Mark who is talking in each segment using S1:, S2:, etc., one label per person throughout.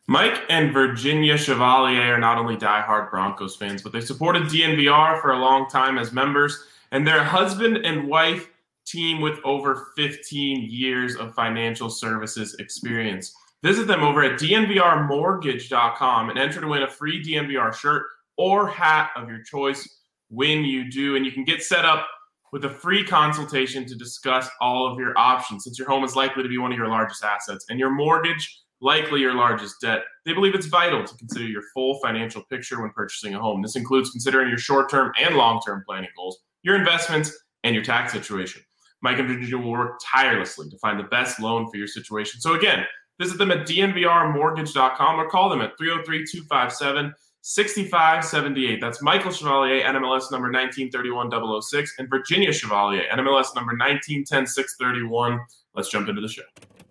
S1: Mike and Virginia Chevalier are not only diehard Broncos fans, but they supported DNVR for a long time as members, and they're a husband and wife team with over 15 years of financial services experience. Visit them over at dnvrmortgage.com and enter to win a free DNVR shirt or hat of your choice when you do. And you can get set up with a free consultation to discuss all of your options. Since your home is likely to be one of your largest assets and your mortgage likely your largest debt, they believe it's vital to consider your full financial picture when purchasing a home. This includes considering your short-term and long-term planning goals, your investments, and your tax situation. Mike and Virginia will work tirelessly to find the best loan for your situation. So again, visit them at dnvrmortgage.com or call them at 303-257-6578. That's Michael Chevalier, NMLS number 1931-006, and Virginia Chevalier, NMLS number 1910-631. Let's jump into the show.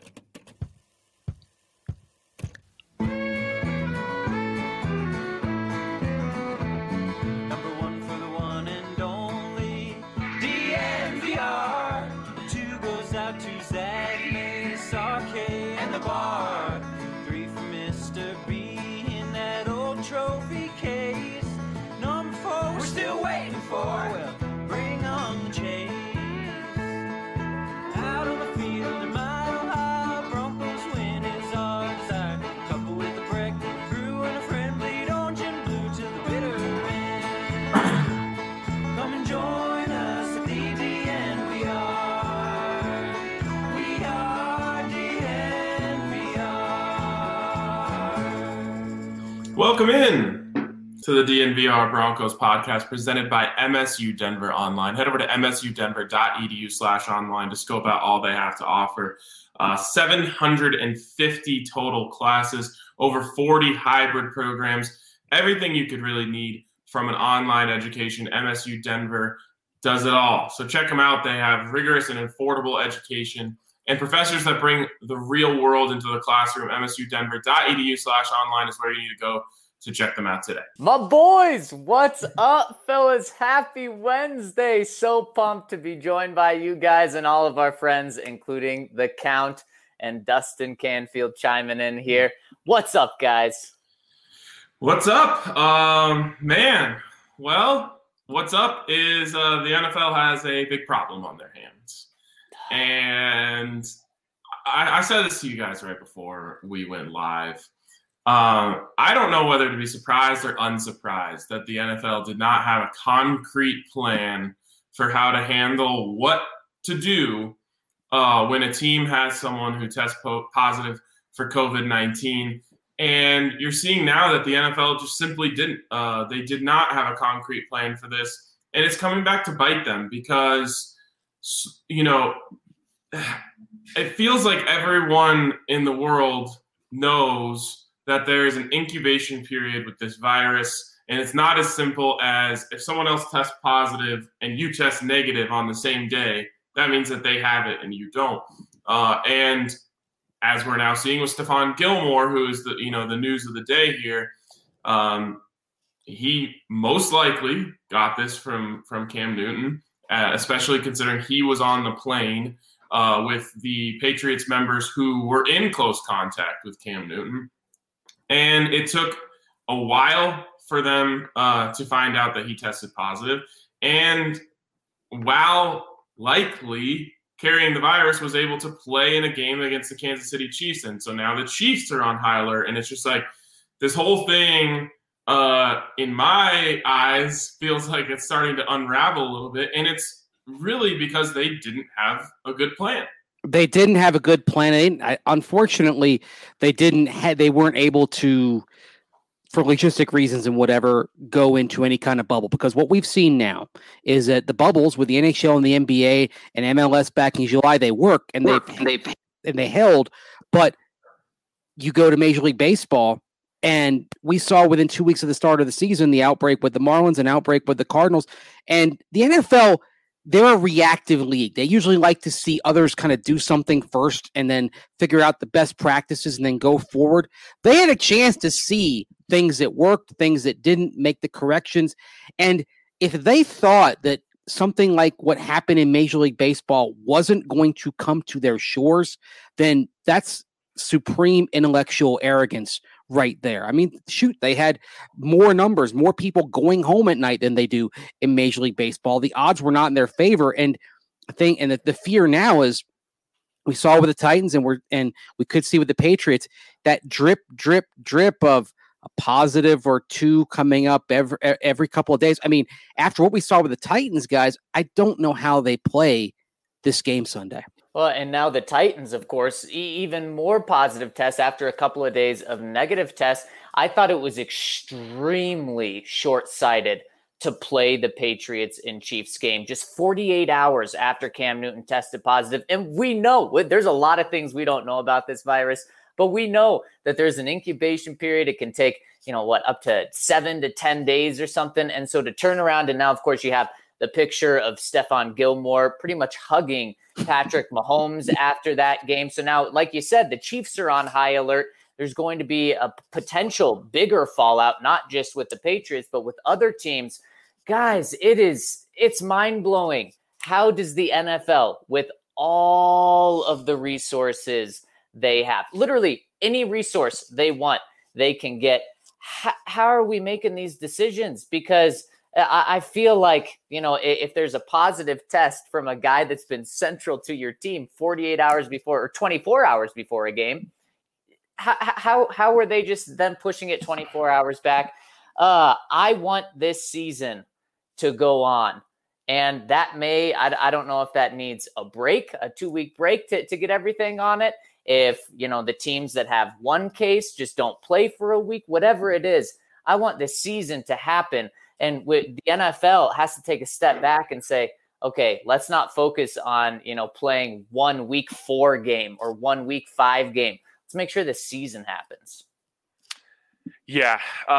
S1: Welcome in to the DNVR Broncos podcast presented by MSU Denver Online. Head over to msudenver.edu/online to scope out all they have to offer. 750 total classes, over 40 hybrid programs, everything you could really need from an online education. MSU Denver does it all. So check them out. They have rigorous and affordable education and professors that bring the real world into the classroom. msudenver.edu/online is where you need to go to check them out today.
S2: My boys, what's up, fellas? Happy Wednesday. So pumped to be joined by you guys and all of our friends, including the Count and Dustin Canfield chiming in here. What's up, guys?
S1: What's up? Man, well, what's up is the NFL has a big problem on their hands. And I said this to you guys right before we went live. I don't know whether to be surprised or unsurprised that the NFL did not have a concrete plan for how to handle what to do when a team has someone who tests positive for COVID-19. And you're seeing now that the NFL just simply didn't. They did not have a concrete plan for this. And it's coming back to bite them because, you know, it feels like everyone in the world knows that there is an incubation period with this virus, and it's not as simple as if someone else tests positive and you test negative on the same day, that means that they have it and you don't. And as we're now seeing with Stephon Gilmore, who is the news of the day here, he most likely got this from Cam Newton, especially considering he was on the plane with the Patriots members who were in close contact with Cam Newton. And it took a while for them to find out that he tested positive. And while likely carrying the virus, was able to play in a game against the Kansas City Chiefs. And so now the Chiefs are on high alert. And it's just like this whole thing, in my eyes, feels like it's starting to unravel a little bit. And it's really because they didn't have a good plan.
S3: They didn't have a good plan. Unfortunately, they weren't able to, for logistic reasons and whatever, go into any kind of bubble. Because what we've seen now is that the bubbles with the NHL and the NBA and MLS back in July, they work and they held. But you go to Major League Baseball, and we saw within 2 weeks of the start of the season the outbreak with the Marlins, an outbreak with the Cardinals, and the NFL. They're a reactive league. They usually like to see others kind of do something first and then figure out the best practices and then go forward. They had a chance to see things that worked, things that didn't, make the corrections. And if they thought that something like what happened in Major League Baseball wasn't going to come to their shores, then that's supreme intellectual arrogance right there. I mean, shoot, they had more numbers, more people going home at night than they do in Major League Baseball. The odds were not in their favor. And the fear now is we saw with the Titans and we could see with the Patriots that drip of a positive or two coming up every couple of days. I mean, after what we saw with the Titans, guys, I don't know how they play this game Sunday.
S2: Well, and now the Titans, of course, even more positive tests after a couple of days of negative tests. I thought it was extremely short-sighted to play the Patriots and Chiefs game just 48 hours after Cam Newton tested positive. And we know there's a lot of things we don't know about this virus, but we know that there's an incubation period. It can take, up to 7 to 10 days or something. And so to turn around, and now, of course, you have the picture of Stephon Gilmore pretty much hugging Patrick Mahomes after that game. So now, like you said, the Chiefs are on high alert. There's going to be a potential bigger fallout, not just with the Patriots, but with other teams. Guys, it's mind-blowing. How does the NFL, with all of the resources they have, literally any resource they want, they can get, how are we making these decisions? Because I feel like, if there's a positive test from a guy that's been central to your team 48 hours before or 24 hours before a game, how were they just then pushing it 24 hours back? I want this season to go on. And that I don't know if that needs a break, a 2-week break to get everything on it. If, the teams that have one case just don't play for a week, whatever it is, I want this season to happen. And with the NFL has to take a step back and say, okay, let's not focus on, playing 1 week 4 game or 1 week 5 game. Let's make sure the season happens.
S4: Yeah.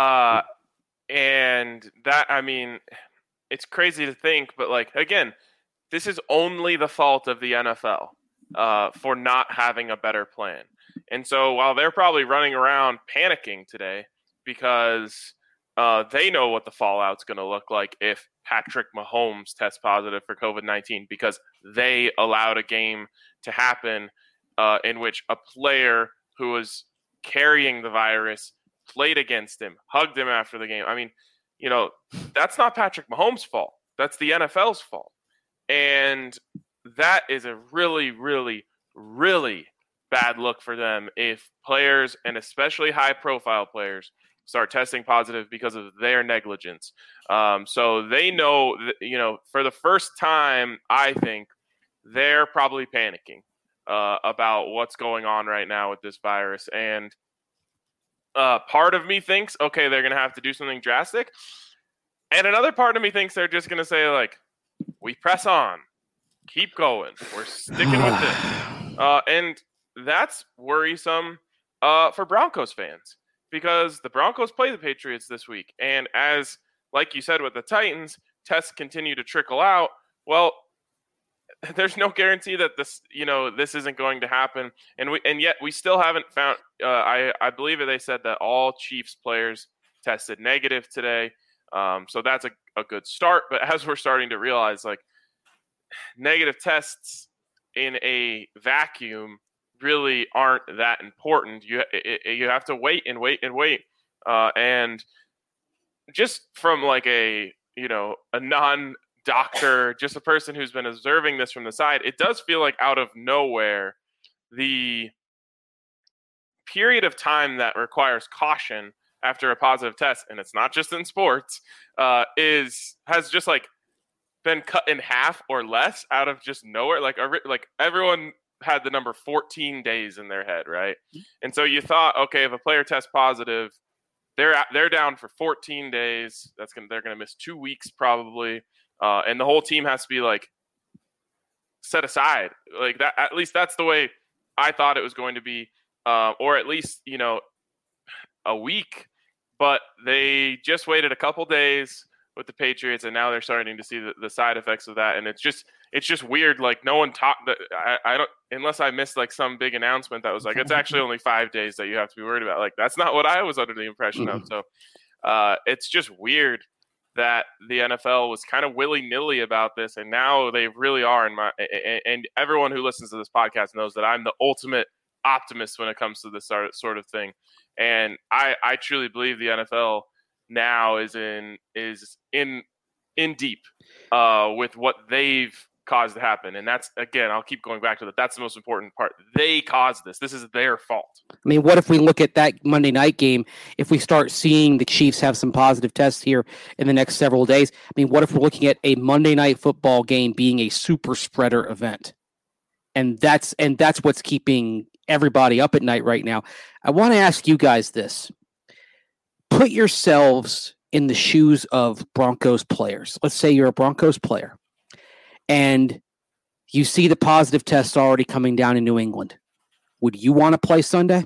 S4: And that, I mean, it's crazy to think, but again, this is only the fault of the NFL for not having a better plan. And so while they're probably running around panicking today because they know what the fallout's going to look like if Patrick Mahomes tests positive for COVID-19 because they allowed a game to happen in which a player who was carrying the virus played against him, hugged him after the game. I mean, that's not Patrick Mahomes' fault. That's the NFL's fault. And that is a really, really, really bad look for them if players, and especially high-profile players, start testing positive because of their negligence. So they know, for the first time, I think, they're probably panicking about what's going on right now with this virus. And part of me thinks, okay, they're going to have to do something drastic. And another part of me thinks they're just going to say, we press on. Keep going. We're sticking with this. And that's worrisome for Broncos fans because the Broncos play the Patriots this week. And like you said with the Titans, tests continue to trickle out. Well, there's no guarantee that this isn't going to happen. And yet we still haven't found, I believe they said that all Chiefs players tested negative today. So that's a good start. But as we're starting to realize, negative tests in a vacuum really aren't that important. You have to wait and wait and wait. And just from a non-doctor, just a person who's been observing this from the side, it does feel like out of nowhere, the period of time that requires caution after a positive test, and it's not just in sports, has just been cut in half or less out of just nowhere. Everyone had the number 14 days in their head, right? And so you thought, okay, if a player tests positive, they're down for 14 days. They're gonna miss 2 weeks probably, and the whole team has to be set aside that. At least that's the way I thought it was going to be, or at least a week. But they just waited a couple days with the Patriots, and now they're starting to see the side effects of that. And it's just weird. No one talked. I don't, unless I missed some big announcement that was it's actually only 5 days that you have to be worried about. That's not what I was under the impression of. So it's just weird that the NFL was kind of willy-nilly about this, and now they really are. And everyone who listens to this podcast knows that I'm the ultimate optimist when it comes to this sort of thing. And I truly believe the NFL now is in deep with what they've caused to happen. And that's, again, I'll keep going back to that. That's the most important part. They caused this. This is their fault.
S3: I mean, what if we look at that Monday night game, if we start seeing the Chiefs have some positive tests here in the next several days? I mean, what if we're looking at a Monday night football game being a super spreader event? And that's what's keeping everybody up at night right now. I want to ask you guys this. Put yourselves in the shoes of Broncos players. Let's say you're a Broncos player and you see the positive tests already coming down in New England. Would you want to play Sunday?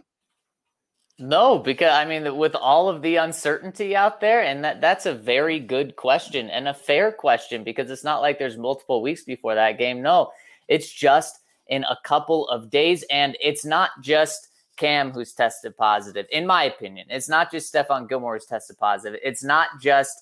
S2: No, because I mean, with all of the uncertainty out there, and that's a very good question and a fair question, because it's not like there's multiple weeks before that game. No, it's just in a couple of days, and it's not just Cam who's tested positive, in my opinion. It's not just Stephon Gilmore who's tested positive. It's not just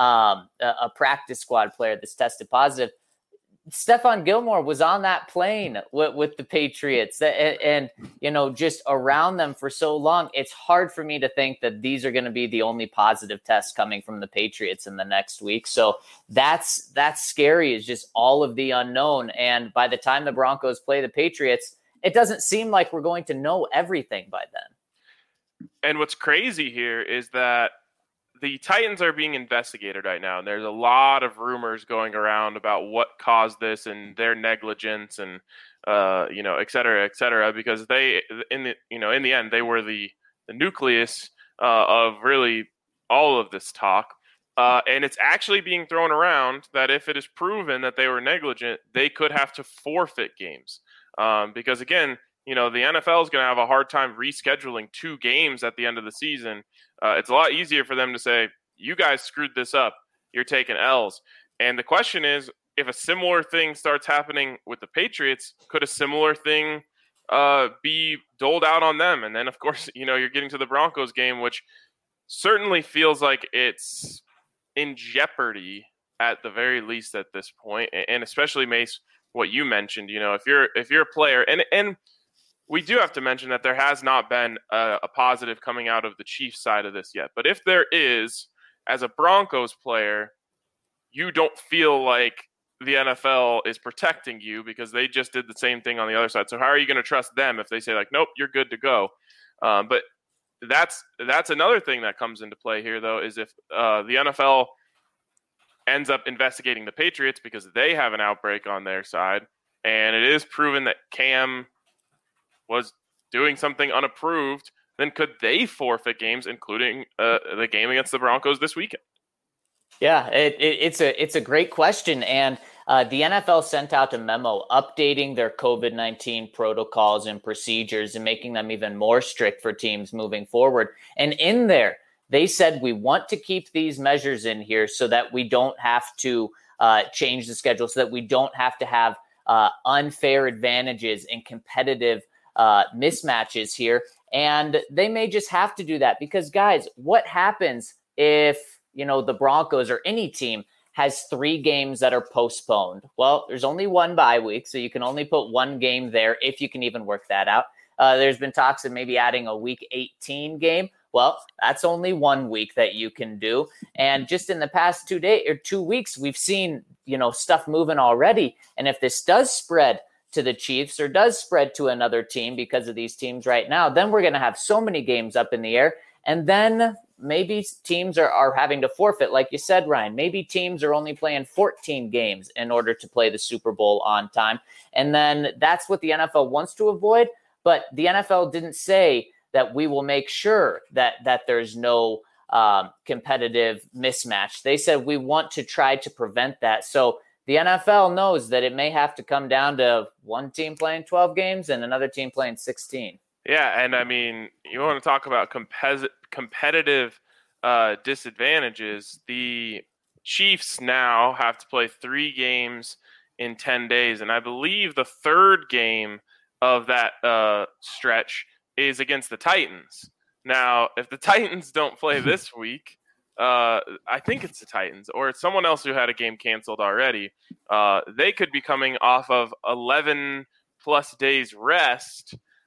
S2: a practice squad player that's tested positive. Stephon Gilmore was on that plane with the Patriots and, you know, just around them for so long. It's hard for me to think that these are going to be the only positive tests coming from the Patriots in the next week. So that's scary, is just all of the unknown. And by the time the Broncos play the Patriots, it doesn't seem like we're going to know everything by then.
S4: And what's crazy here is that the Titans are being investigated right now, and there's a lot of rumors going around about what caused this and their negligence and et cetera, because they in the end they were the nucleus of really all of this talk, and it's actually being thrown around that if it is proven that they were negligent, they could have to forfeit games, because again, the NFL is going to have a hard time rescheduling 2 games at the end of the season. It's a lot easier for them to say, you guys screwed this up, you're taking L's. And the question is, if a similar thing starts happening with the Patriots, could a similar thing be doled out on them? And then, of course, you're getting to the Broncos game, which certainly feels like it's in jeopardy at the very least at this point. And especially, Mace, what you mentioned, if you're a player, and we do have to mention that there has not been a positive coming out of the Chiefs side of this yet. But if there is, as a Broncos player, you don't feel like the NFL is protecting you because they just did the same thing on the other side. So how are you going to trust them if they say, like, nope, you're good to go? But that's another thing that comes into play here, though, is if the NFL ends up investigating the Patriots because they have an outbreak on their side, and it is proven that Cam was doing something unapproved, then could they forfeit games, including the game against the Broncos this weekend?
S2: Yeah, it's a great question. And the NFL sent out a memo updating their COVID-19 protocols and procedures and making them even more strict for teams moving forward. And in there, they said, we want to keep these measures in here so that we don't have to change the schedule, so that we don't have to have unfair advantages and competitive mismatches here. And they may just have to do that because, guys, what happens if, the Broncos or any team has 3 games that are postponed? Well, there's only one bye week, so you can only put 1 game there if you can even work that out. There's been talks of maybe adding a week 18 game. Well, that's only 1 week that you can do. And just in the past 2 weeks, we've seen, stuff moving already. And if this does spread to the Chiefs or does spread to another team because of these teams right now, then we're going to have so many games up in the air. And then maybe teams are having to forfeit. Like you said, Ryan, maybe teams are only playing 14 games in order to play the Super Bowl on time. And then that's what the NFL wants to avoid. But the NFL didn't say that we will make sure that there's no competitive mismatch. They said we want to try to prevent that. So the NFL knows that it may have to come down to one team playing 12 games and another team playing 16.
S4: Yeah, and I mean, you want to talk about competitive disadvantages. The Chiefs now have to play 3 games in 10 days, and I believe the 3rd game of that stretch is against the Titans. Now, if the Titans don't play this week, I think it's the Titans or it's someone else who had a game canceled already. They could be coming off of 11 plus days rest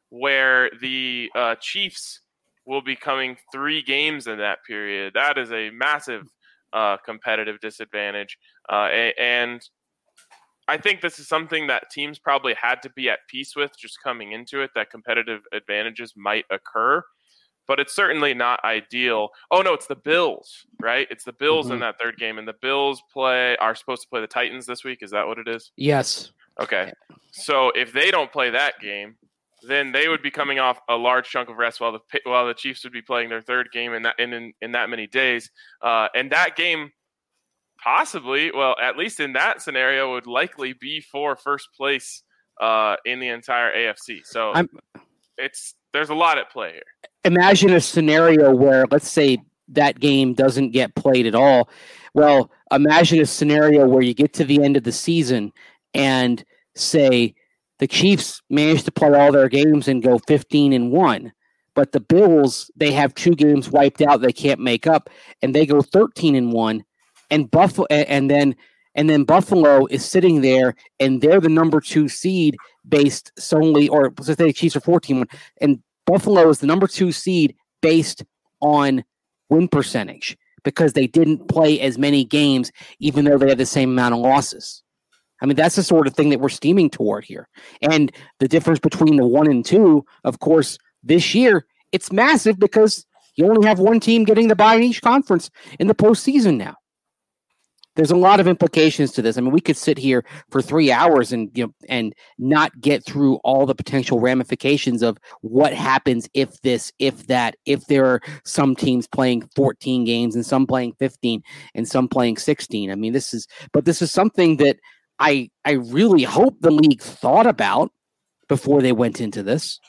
S4: where the Chiefs will be coming 3 games in that period. That is a massive competitive disadvantage. And I think this is something that teams probably had to be at peace with just coming into it, that competitive advantages might occur. But it's certainly not ideal. Oh, no, it's the Bills, right? It's the Bills in that third game. And the Bills are supposed to play the Titans this week. Is that what it is?
S3: Yes.
S4: Okay. So if they don't play that game, then they would be coming off a large chunk of rest while the Chiefs would be playing their third game in that many days. And that game possibly, well, at least in that scenario, would likely be for first place in the entire AFC. So there's a lot at play here.
S3: Imagine a scenario where, let's say, that game doesn't get played at all. Well, imagine a scenario where you get to the end of the season and say the Chiefs manage to play all their games and go 15-1, but the Bills, they have 2 games wiped out they can't make up, and they go 13-1, and Buffalo, and then Buffalo is sitting there, and they're the number 2 seed based solely, or let's say the Chiefs are 14-1, and Buffalo is the number 2 seed based on win percentage because they didn't play as many games, even though they had the same amount of losses. I mean, that's the sort of thing that we're steaming toward here. And the difference between the 1 and 2, of course, this year, it's massive because you only have one team getting the bye in each conference in the postseason now. There's a lot of implications to this. I mean, we could sit here for 3 hours and not get through all the potential ramifications of what happens if this, if that, if there are some teams playing 14 games and some playing 15 and some playing 16. I mean, this is something that I really hope the league thought about before they went into this.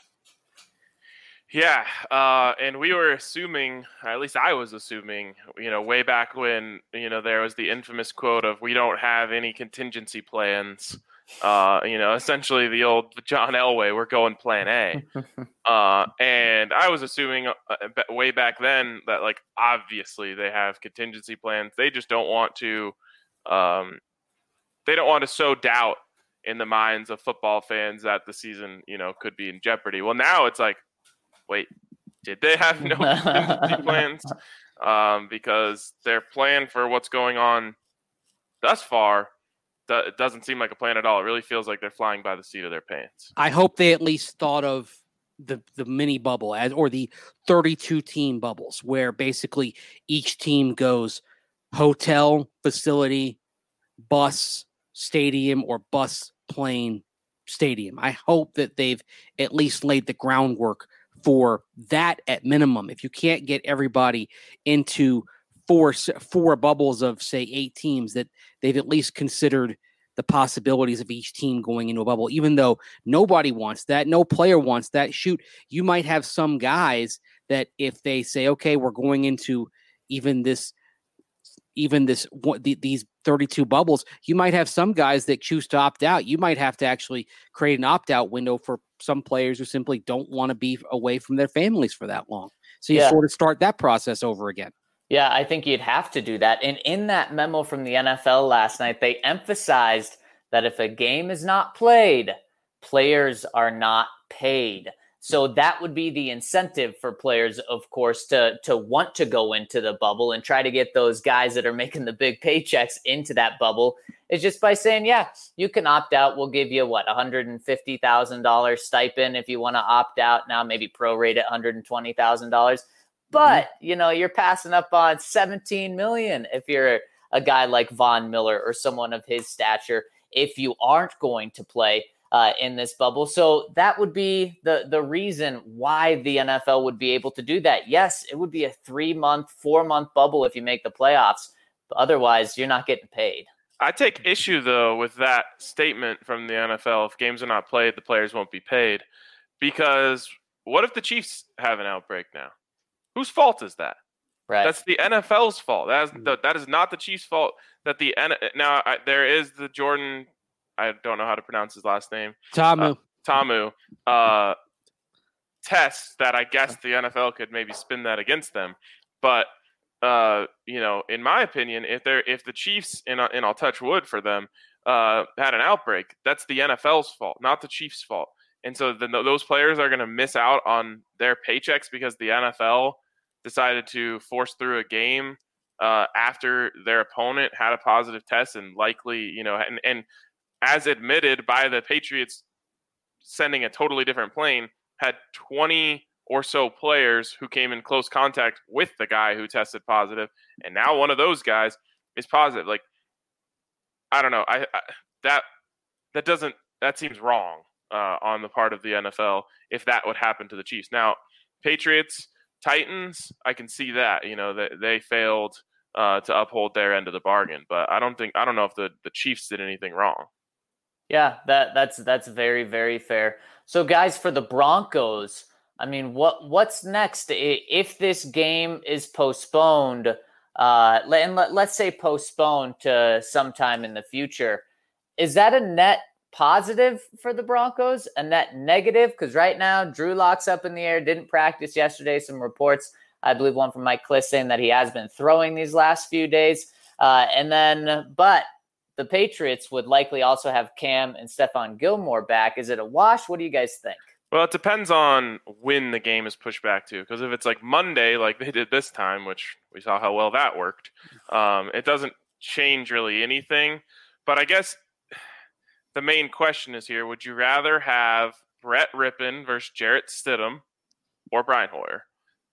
S4: Yeah, and we were assuming, at least I was assuming, way back when, there was the infamous quote of "we don't have any contingency plans." Essentially the old John Elway, we're going Plan A. And I was assuming way back then that, like, obviously they have contingency plans. They just don't want to. They don't want to sow doubt in the minds of football fans that the season, could be in jeopardy. Well, now it's like, wait, did they have no contingency plans? Because their plan for what's going on thus far it doesn't seem like a plan at all. It really feels like they're flying by the seat of their pants.
S3: I hope they at least thought of the mini bubble or the 32 team bubbles, where basically each team goes hotel, facility, bus, stadium, or bus, plane, stadium. I hope that they've at least laid the groundwork for that at minimum. If you can't get everybody into four bubbles of, say, 8 teams, that they've at least considered the possibilities of each team going into a bubble, even though nobody wants that. No player wants that. Shoot, you might have some guys that if they say, okay, we're going into these 32 bubbles, you might have some guys that choose to opt out. You might have to actually create an opt-out window for some players who simply don't want to be away from their families for that long. So you sort of start that process over again.
S2: Yeah, I think you'd have to do that. And in that memo from the NFL last night, they emphasized that if a game is not played, players are not paid. So that would be the incentive for players, of course, to want to go into the bubble and try to get those guys that are making the big paychecks into that bubble. Is just by saying, yeah, you can opt out. We'll give you $150,000 stipend if you want to opt out. Now maybe prorate it $120,000. But, you're passing up on $17 million if you're a guy like Von Miller or someone of his stature, if you aren't going to play in this bubble. So that would be the reason why the NFL would be able to do that. Yes, it would be a 3-month, 4-month bubble if you make the playoffs, but otherwise you're not getting paid.
S4: I take issue, though, with that statement from the NFL. If games are not played, the players won't be paid. Because what if the Chiefs have an outbreak now? Whose fault is that?
S2: Right.
S4: That's the NFL's fault. That is not the Chiefs' fault. There is the Jordan, I don't know how to pronounce his last name.
S3: Tamu
S4: test that I guess the NFL could maybe spin that against them. But in my opinion, if the Chiefs, and I'll touch wood for them, had an outbreak, that's the NFL's fault, not the Chiefs' fault. And so then those players are going to miss out on their paychecks because the NFL decided to force through a game after their opponent had a positive test and likely, and as admitted by the Patriots sending a totally different plane, had 20 or so players who came in close contact with the guy who tested positive, and now one of those guys is positive. Like, I don't know. That seems wrong on the part of the NFL if that would happen to the Chiefs. Now, Patriots, Titans, I can see that, that they failed to uphold their end of the bargain, but I don't know if the Chiefs did anything wrong.
S2: Yeah, that's very, very fair. So guys, for the Broncos, I mean, what's next if this game is postponed? Let's say postponed to sometime in the future. Is that a net positive for the Broncos, a net negative? Because right now, Drew Lock's up in the air, didn't practice yesterday. Some reports, I believe one from Mike Kliss, saying that he has been throwing these last few days. But the Patriots would likely also have Cam and Stephon Gilmore back. Is it a wash? What do you guys think?
S4: Well, it depends on when the game is pushed back to. Because if it's like Monday, like they did this time, which we saw how well that worked, it doesn't change really anything. But I guess the main question is here, would you rather have Brett Rippon versus Jarrett Stidham or Brian Hoyer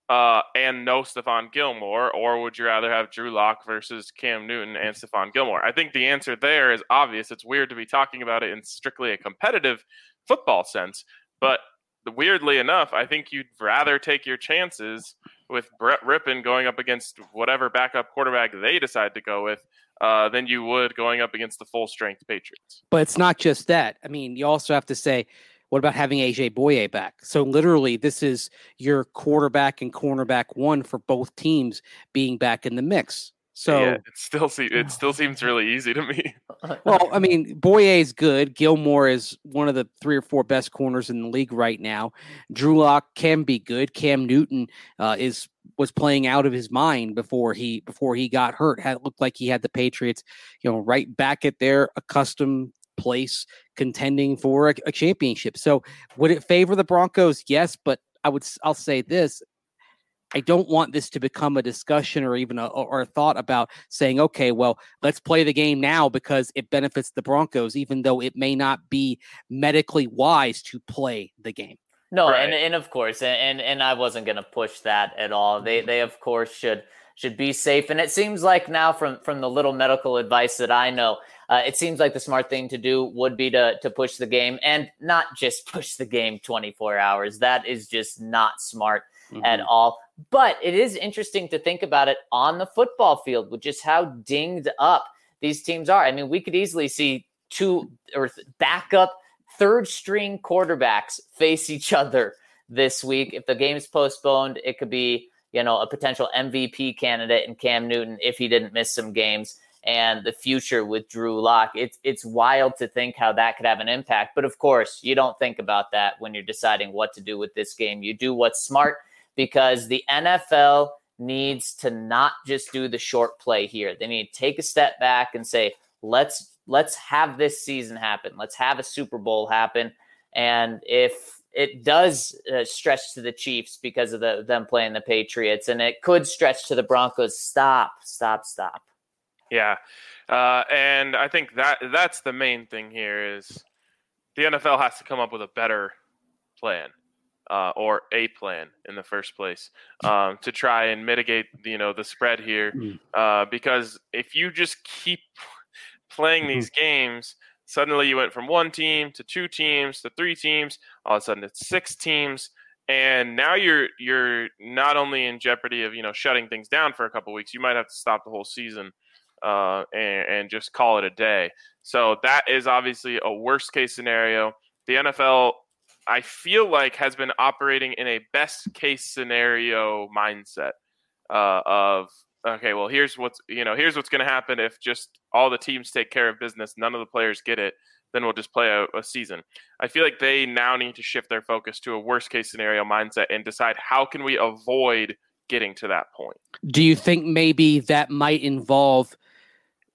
S4: and no Stephon Gilmore, or would you rather have Drew Lock versus Cam Newton and Stephon Gilmore? I think the answer there is obvious. It's weird to be talking about it in strictly a competitive football sense, but weirdly enough, I think you'd rather take your chances with Brett Rippon going up against whatever backup quarterback they decide to go with than you would going up against the full-strength Patriots.
S3: But it's not just that. I mean, you also have to say, what about having AJ Bouye back? So literally, this is your quarterback and cornerback one for both teams being back in the mix. So
S4: yeah, it still seems really easy to me.
S3: Well, I mean, Bouye is good. Gilmore is one of the 3 or 4 best corners in the league right now. Drew Lock can be good. Cam Newton was playing out of his mind before he got hurt. It looked like he had the Patriots, right back at their accustomed place, contending for a championship. So would it favor the Broncos? Yes, but I'll say this. I don't want this to become a discussion or even a thought about saying, okay, well, let's play the game now because it benefits the Broncos, even though it may not be medically wise to play the game.
S2: No, right. and of course, and I wasn't going to push that at all. They of course should be safe. And it seems like now from the little medical advice that I know, it seems like the smart thing to do would be to push the game, and not just push the game 24 hours. That is just not smart at all. But it is interesting to think about it on the football field with just how dinged up these teams are. I mean, we could easily see 2 or backup third-string quarterbacks face each other this week. If the game is postponed, it could be, a potential MVP candidate in Cam Newton if he didn't miss some games, and the future with Drew Lock. It's wild to think how that could have an impact. But of course, you don't think about that when you're deciding what to do with this game. You do what's smart, because the NFL needs to not just do the short play here. They need to take a step back and say, let's have this season happen. Let's have a Super Bowl happen. And if it does stretch to the Chiefs because of them playing the Patriots, and it could stretch to the Broncos, stop.
S4: Yeah. And I think that's the main thing here is the NFL has to come up with a better plan. Or a plan in the first place to try and mitigate, the spread here. Because if you just keep playing these games, suddenly you went from 1 team to 2 teams to 3 teams. All of a sudden it's 6 teams. And now you're not only in jeopardy of, shutting things down for a couple of weeks, you might have to stop the whole season and just call it a day. So that is obviously a worst case scenario. The NFL, I feel like, has been operating in a best case scenario mindset of, okay, well, here's what's going to happen if just all the teams take care of business, none of the players get it, then we'll just play a season. I feel like they now need to shift their focus to a worst case scenario mindset and decide how can we avoid getting to that point.
S3: Do you think maybe that might involve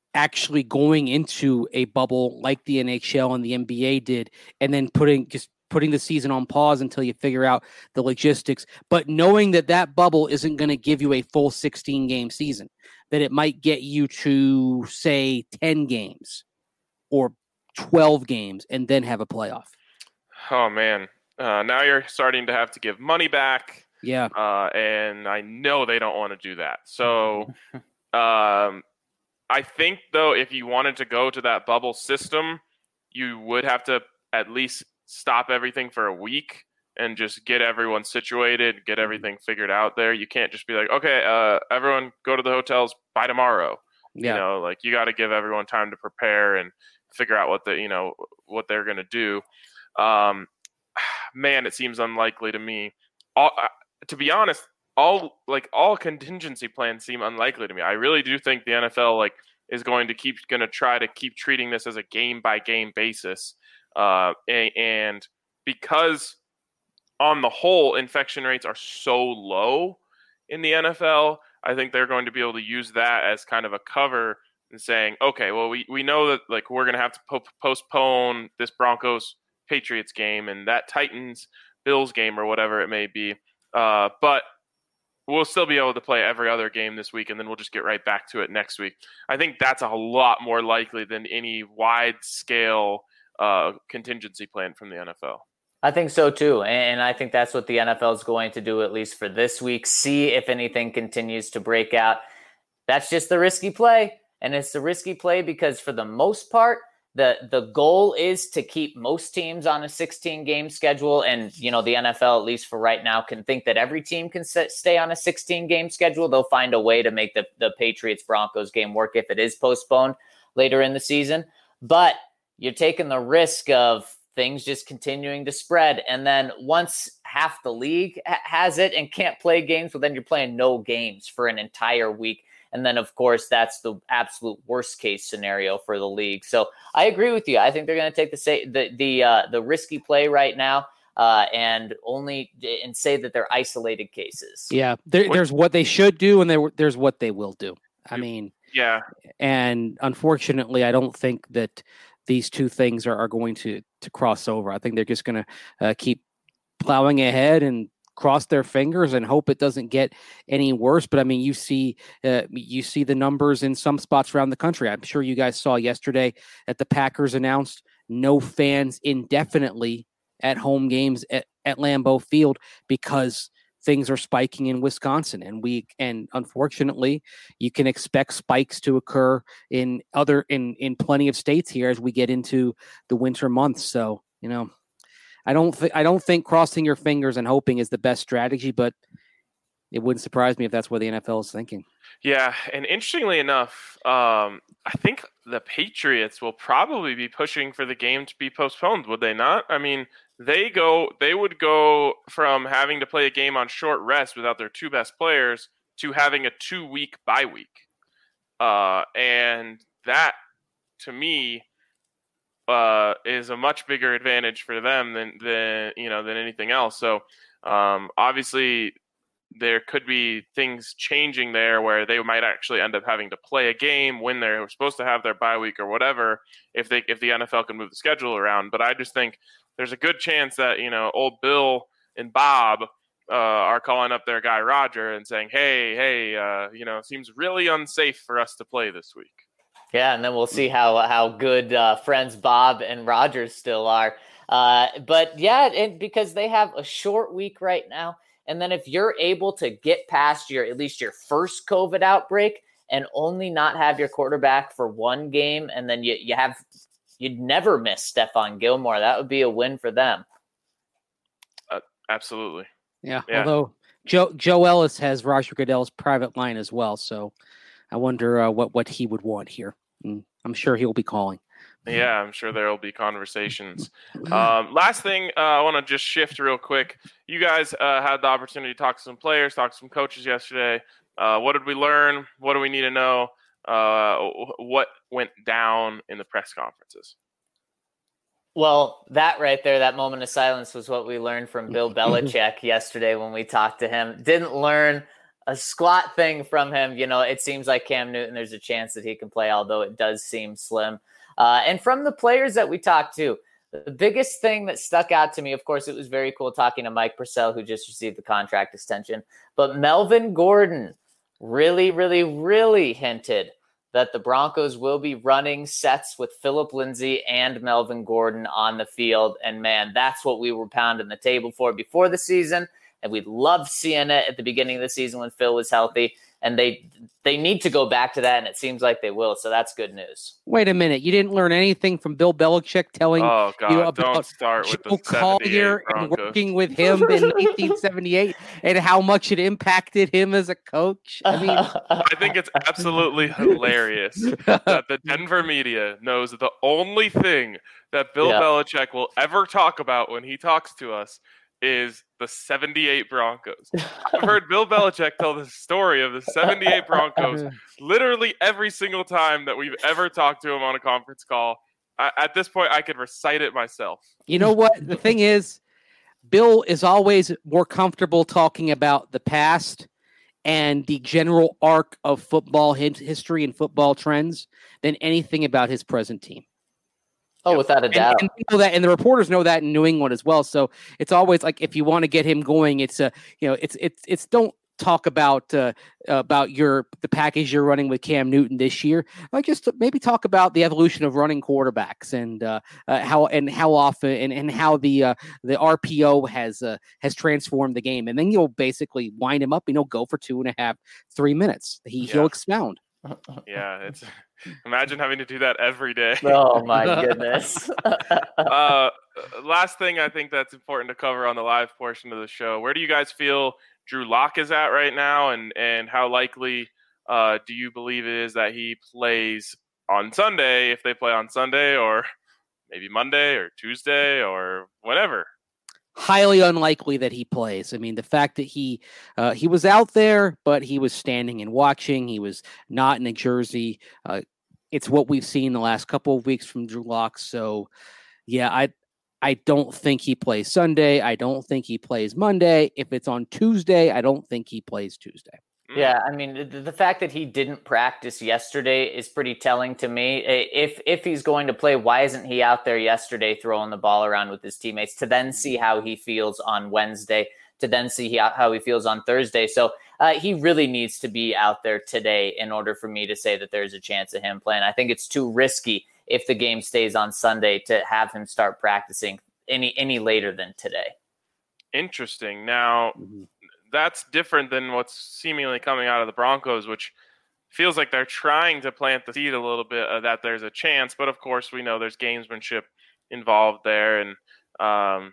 S3: actually going into a bubble like the NHL and the NBA did, and then putting putting the season on pause until you figure out the logistics, but knowing that that bubble isn't going to give you a full 16-game season, that it might get you to, say, 10 games or 12 games and then have a playoff.
S4: Oh, man. Now you're starting to have to give money back.
S3: Yeah.
S4: And I know they don't want to do that. So I think, though, if you wanted to go to that bubble system, you would have to at least stop everything for a week and just get everyone situated, get everything figured out there. You can't just be like, okay, everyone go to the hotels by tomorrow.
S3: Yeah.
S4: You know, like you got to give everyone time to prepare and figure out what they're going to do. Man, it seems unlikely to me. To be honest, all contingency plans seem unlikely to me. I really do think the NFL is going to try to keep treating this as a game by game basis. And because on the whole, infection rates are so low in the NFL, I think they're going to be able to use that as kind of a cover and saying, okay, well, we know that we're going to have to postpone this Broncos Patriots game and that Titans Bills game or whatever it may be. But we'll still be able to play every other game this week, and then we'll just get right back to it next week. I think that's a lot more likely than any wide-scale contingency plan from the NFL.
S2: I think so too. And I think that's what the NFL is going to do, at least for this week. See if anything continues to break out. That's just the risky play. And it's the risky play because for the most part, the goal is to keep most teams on a 16-game schedule. And, the NFL, at least for right now, can think that every team can stay on a 16-game schedule. They'll find a way to make the Patriots-Broncos game work if it is postponed later in the season. But you're taking the risk of things just continuing to spread. And then once half the league has it and can't play games, well, then you're playing no games for an entire week. And then, of course, that's the absolute worst case scenario for the league. So I agree with you. I think they're going to take the risky play right now and say that they're isolated cases.
S3: Yeah, there's what they should do, and there's what they will do. I mean,
S4: yeah.
S3: And unfortunately, I don't think that these two things are going to cross over. I think they're just going to keep plowing ahead and cross their fingers and hope it doesn't get any worse. But I mean, you see the numbers in some spots around the country. I'm sure you guys saw yesterday that the Packers announced no fans indefinitely at home games at Lambeau Field because things are spiking in Wisconsin. And unfortunately, you can expect spikes to occur in plenty of states here as we get into the winter months. So, I don't think crossing your fingers and hoping is the best strategy, but it wouldn't surprise me if that's what the NFL is thinking.
S4: Yeah, and interestingly enough, I think the Patriots will probably be pushing for the game to be postponed, would they not? I mean, they would go from having to play a game on short rest without their two best players to having a 2-week bye week. And that, to me, is a much bigger advantage for them than anything else. So obviously there could be things changing there where they might actually end up having to play a game when they're supposed to have their bye week or whatever, if the NFL can move the schedule around. But I just think there's a good chance that, old Bill and Bob are calling up their guy Roger and saying, hey, it seems really unsafe for us to play this week.
S2: Yeah, and then we'll see how good friends Bob and Roger still are. But yeah, and because they have a short week right now, and then if you're able to get past at least your first COVID outbreak and only not have your quarterback for one game, and then you'd never miss Stephon Gilmore, that would be a win for them.
S4: Absolutely.
S3: Yeah. Although Joe Ellis has Roger Goodell's private line as well, so I wonder what he would want here. I'm sure he'll be calling.
S4: Yeah, I'm sure there will be conversations. Last thing, I want to just shift real quick. You guys had the opportunity to talk to some players, talk to some coaches yesterday. What did we learn? What do we need to know? What went down in the press conferences?
S2: Well, that right there, that moment of silence was what we learned from Bill Belichick yesterday when we talked to him. Didn't learn a squat thing from him. It seems like Cam Newton, there's a chance that he can play, although it does seem slim. And from the players that we talked to, The biggest thing that stuck out to me, of course, it was very cool talking to Mike Purcell, who just received the contract extension. But Melvin Gordon really, really, really hinted that the Broncos will be running sets with Phillip Lindsay and Melvin Gordon on the field. And, man, that's what we were pounding the table for before the season. And we loved seeing it at the beginning of the season when Phil was healthy. And they need to go back to that, and it seems like they will. So that's good news.
S3: Wait a minute. You didn't learn anything from Bill Belichick telling you about
S4: don't start with
S3: Joe
S4: the
S3: Collier and
S4: Broncos.
S3: working with him in 1978 and how much it impacted him as a coach? I mean,
S4: I think it's absolutely hilarious that the Denver media knows the only thing that Bill Belichick will ever talk about when he talks to us is the 78 Broncos. I've heard Bill Belichick tell the story of the 78 Broncos literally every single time that we've ever talked to him on a conference call. At this point, I could recite it myself.
S3: You know what? The thing is, Bill is always more comfortable talking about the past and the general arc of football history and football trends than anything about his present team.
S2: Oh, without a doubt.
S3: And we know that, and the reporters know that in New England as well. So it's always like, if you want to get him going, it's don't talk about the package you're running with Cam Newton this year. Like, just maybe talk about the evolution of running quarterbacks and how often and how the RPO has transformed the game. And then you'll basically wind him up and he'll go for 2.5, 3 minutes. He'll expound.
S4: Yeah, imagine having to do that every day.
S2: Oh my goodness.
S4: Last thing I think that's important to cover on the live portion of the show. Where do you guys feel Drew Lock is at right now, and how likely do you believe it is that he plays on Sunday, if they play on Sunday, or maybe Monday or Tuesday or whatever?
S3: Highly unlikely that he plays. I mean, the fact that he was out there, but he was standing and watching. He was not in a jersey. It's what we've seen the last couple of weeks from Drew Lock. So, yeah, I don't think he plays Sunday. I don't think he plays Monday. If it's on Tuesday, I don't think he plays Tuesday.
S2: Yeah, I mean, the fact that he didn't practice yesterday is pretty telling to me. If he's going to play, why isn't he out there yesterday throwing the ball around with his teammates to then see how he feels on Wednesday, to then see how he feels on Thursday? So he really needs to be out there today in order for me to say that there's a chance of him playing. I think it's too risky if the game stays on Sunday to have him start practicing any later than today.
S4: Interesting. Now, that's different than what's seemingly coming out of the Broncos, which feels like they're trying to plant the seed a little bit that there's a chance. But, of course, we know there's gamesmanship involved there. And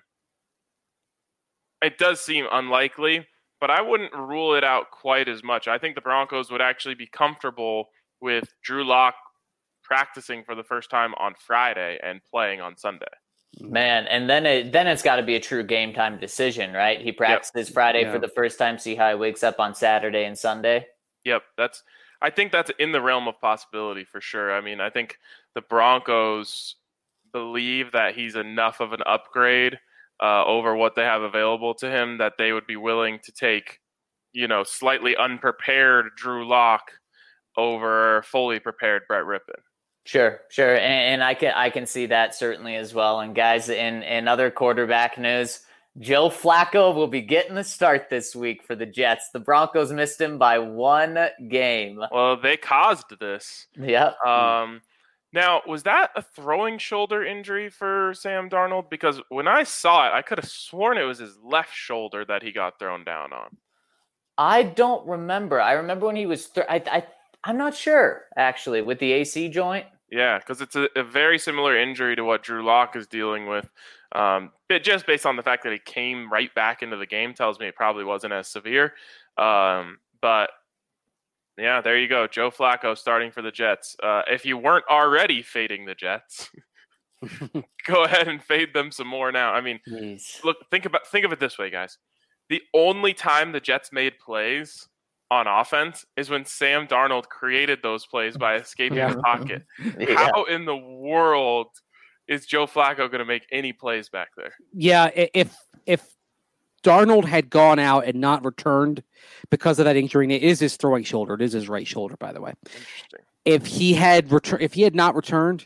S4: it does seem unlikely, but I wouldn't rule it out quite as much. I think the Broncos would actually be comfortable with Drew Lock practicing for the first time on Friday and playing on Sunday.
S2: Man, and then it's got to be a true game time decision, right? He practices Friday for the first time, see how he wakes up on Saturday and Sunday.
S4: Yep, I think that's in the realm of possibility for sure. I mean, I think the Broncos believe that he's enough of an upgrade over what they have available to him that they would be willing to take, slightly unprepared Drew Lock over fully prepared Brett Rippon.
S2: Sure. And I can see that certainly as well. And guys, in other quarterback news, Joe Flacco will be getting the start this week for the Jets. The Broncos missed him by 1 game.
S4: Well, they caused this.
S2: Yep.
S4: Now, was that a throwing shoulder injury for Sam Darnold? Because when I saw it, I could have sworn it was his left shoulder that he got thrown down on.
S2: I don't remember. I remember when he was I'm not sure, actually, with the AC joint.
S4: Yeah, because it's a very similar injury to what Drew Lock is dealing with. Just based on the fact that he came right back into the game tells me it probably wasn't as severe. But, yeah, there you go. Joe Flacco starting for the Jets. If you weren't already fading the Jets, go ahead and fade them some more now. I mean, look, think of it this way, guys. The only time the Jets made plays on offense is when Sam Darnold created those plays by escaping the pocket. Yeah. How in the world is Joe Flacco going to make any plays back there? Yeah,
S3: if Darnold had gone out and not returned because of that injury, and it is his throwing shoulder. It is his right shoulder, by the way.
S4: Interesting.
S3: If he had not returned,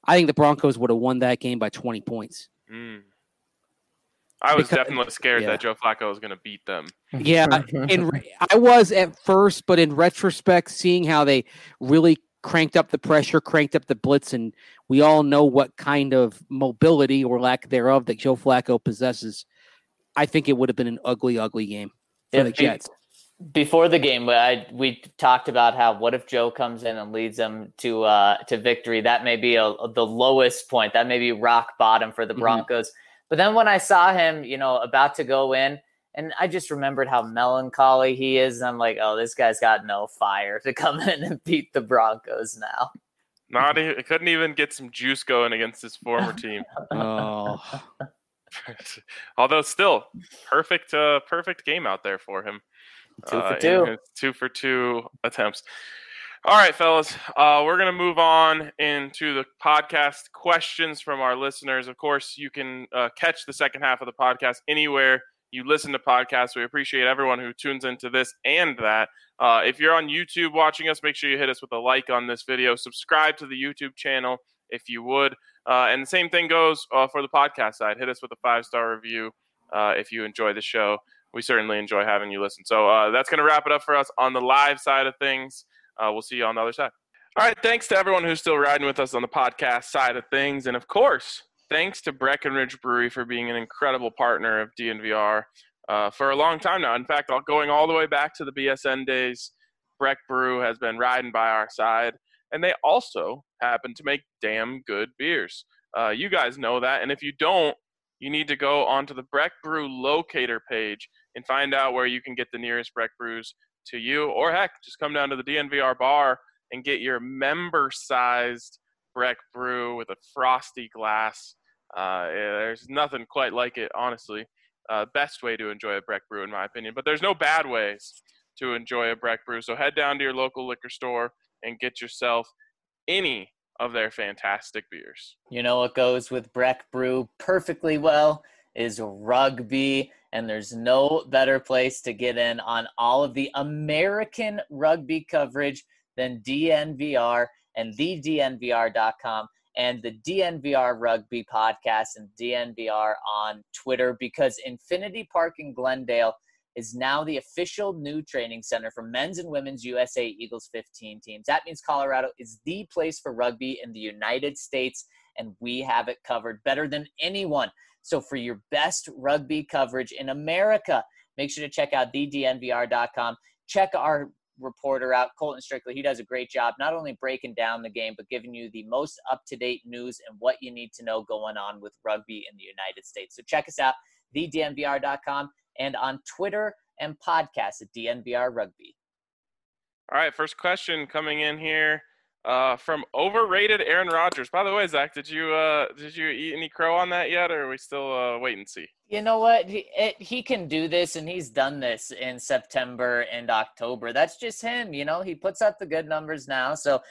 S3: I think the Broncos would have won that game by 20 points.
S4: I was definitely scared that Joe Flacco was going to beat them.
S3: Yeah, I was at first, but in retrospect, seeing how they really cranked up the pressure, cranked up the blitz, and we all know what kind of mobility or lack thereof that Joe Flacco possesses, I think it would have been an ugly, ugly game for the Jets.
S2: Before the game, we talked about how what if Joe comes in and leads them to victory? That may be the lowest point. That may be rock bottom for the Broncos. But then when I saw him, about to go in, and I just remembered how melancholy he is, and I'm like, oh, this guy's got no fire to come in and beat the Broncos now.
S4: He couldn't even get some juice going against his former team. Although still, perfect game out there for him.
S2: 2 for 2.
S4: 2 for 2 attempts. All right, fellas, we're going to move on into the podcast questions from our listeners. Of course, you can catch the second half of the podcast anywhere you listen to podcasts. We appreciate everyone who tunes into this and that. If you're on YouTube watching us, make sure you hit us with a like on this video. Subscribe to the YouTube channel if you would. And the same thing goes for the podcast side. Hit us with a 5-star review if you enjoy the show. We certainly enjoy having you listen. So that's going to wrap it up for us on the live side of things. We'll see you on the other side. All right. Thanks to everyone who's still riding with us on the podcast side of things. And, of course, thanks to Breckenridge Brewery for being an incredible partner of DNVR for a long time now. In fact, going all the way back to the BSN days, Breck Brew has been riding by our side. And they also happen to make damn good beers. You guys know that. And if you don't, you need to go onto the Breck Brew locator page and find out where you can get the nearest Breck Brews to you, or heck, just come down to the DNVR bar and get your member-sized Breck Brew with a frosty glass. There's nothing quite like it, honestly. Best way to enjoy a Breck Brew, in my opinion. But there's no bad ways to enjoy a Breck Brew. So head down to your local liquor store and get yourself any of their fantastic beers.
S2: You know what goes with Breck Brew perfectly well is rugby. And there's no better place to get in on all of the American rugby coverage than DNVR and thednvr.com and the DNVR Rugby Podcast and DNVR on Twitter, because Infinity Park in Glendale is now the official new training center for men's and women's USA Eagles 15 teams. That means Colorado is the place for rugby in the United States, and we have it covered better than anyone. So for your best rugby coverage in America, make sure to check out thednvr.com. Check our reporter out, Colton Strictly. He does a great job, not only breaking down the game, but giving you the most up-to-date news and what you need to know going on with rugby in the United States. So check us out, thednvr.com, and on Twitter and podcast at DNVR Rugby.
S4: All right, first question coming in here. From overrated Aaron Rodgers. By the way, Zach, did you eat any crow on that yet, or are we still wait and see?
S2: You know what? He can do this, and he's done this in September and October. That's just him. He puts up the good numbers now. So,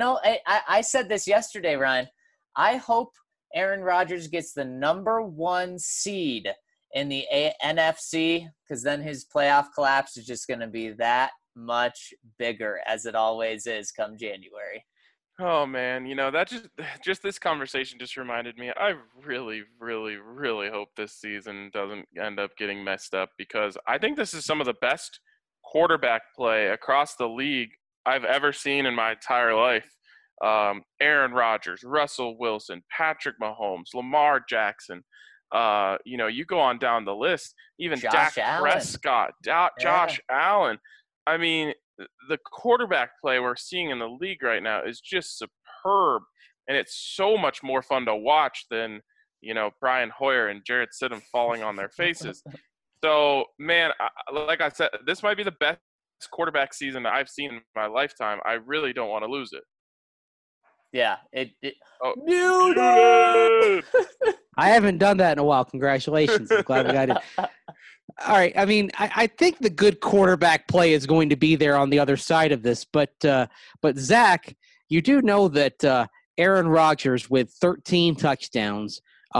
S2: I said this yesterday, Ryan. I hope Aaron Rodgers gets the number 1 seed in the NFC, because then his playoff collapse is just going to be that much bigger, as it always is come January.
S4: Oh man, that just this conversation just reminded me. I really, really, really hope this season doesn't end up getting messed up, because I think this is some of the best quarterback play across the league I've ever seen in my entire life. Aaron Rodgers, Russell Wilson, Patrick Mahomes, Lamar Jackson. You go on down the list. Even Dak Prescott, Josh Allen. I mean, the quarterback play we're seeing in the league right now is just superb, and it's so much more fun to watch than, Brian Hoyer and Jarrett Stidham falling on their faces. So, man, like I said, this might be the best quarterback season I've seen in my lifetime. I really don't want to lose it.
S2: Yeah.
S3: I haven't done that in a while. Congratulations. I'm glad we got it. All right. I mean, I think the good quarterback play is going to be there on the other side of this. But Zach, you do know that Aaron Rodgers, with 13 touchdowns, a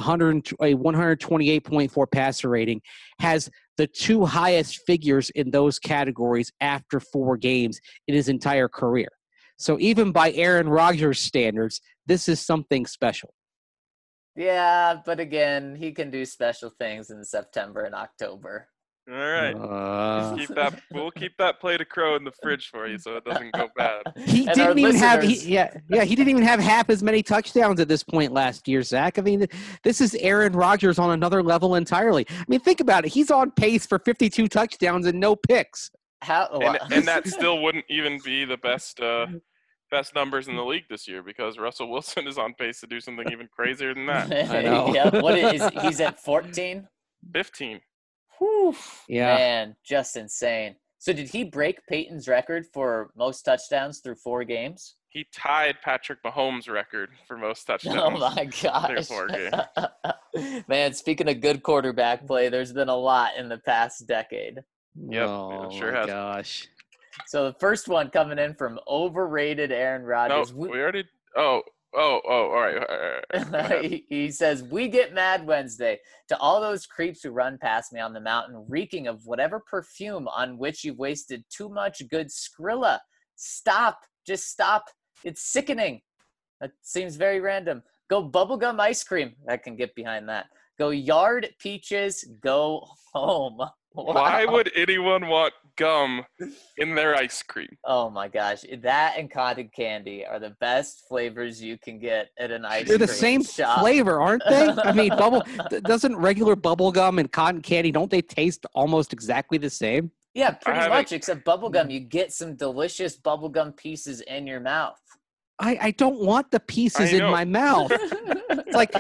S3: 128.4 passer rating, has the 2 highest figures in those categories after 4 games in his entire career. So even by Aaron Rodgers standards, this is something special.
S2: Yeah, but again, he can do special things in September and October.
S4: All right. We'll keep that plate of crow in the fridge for you so it doesn't go bad.
S3: He
S2: And
S3: didn't
S2: our
S3: even have
S2: listeners-
S3: he didn't even have half as many touchdowns at this point last year, Zach. I mean, this is Aaron Rodgers on another level entirely. I mean, think about it. He's on pace for 52 touchdowns and no picks.
S4: And that still wouldn't even be the best numbers in the league this year because Russell Wilson is on pace to do something even crazier than that.
S3: I know.
S2: Yeah, he's at 14?
S4: 15.
S2: Whew,
S3: Yeah.
S2: man, just insane. So did he break Peyton's record for most touchdowns through 4 games?
S4: He tied Patrick Mahomes' record for most touchdowns.
S2: Oh my gosh.
S4: 4 games.
S2: Man, speaking of good quarterback play, there's been a lot in the past decade.
S4: Yep,
S3: Oh,
S4: it sure
S3: my
S4: has.
S3: gosh.
S2: So the first one coming in from overrated Aaron
S4: No,
S2: Rodgers.
S4: we already. Oh, all right. Go ahead.
S2: He says, "We get mad Wednesday to all those creeps who run past me on the mountain, reeking of whatever perfume on which you've wasted too much good Skrilla. Stop. Just stop. It's sickening." That seems very random. Go bubblegum ice cream. I can get behind that. Go yard peaches. Go home. Wow.
S4: Why would anyone want gum in their ice cream?
S2: Oh my gosh. That and cotton candy are the best flavors you can get at an ice
S3: They're
S2: cream
S3: the same
S2: shop.
S3: flavor, aren't they? I mean, doesn't regular bubble gum and cotton candy, don't they taste almost exactly the same?
S2: Yeah, pretty
S4: haven't-
S2: much, except bubblegum. You get some delicious bubblegum pieces in your mouth.
S3: I don't want the pieces
S4: I
S3: in
S4: know.
S3: my mouth. It's like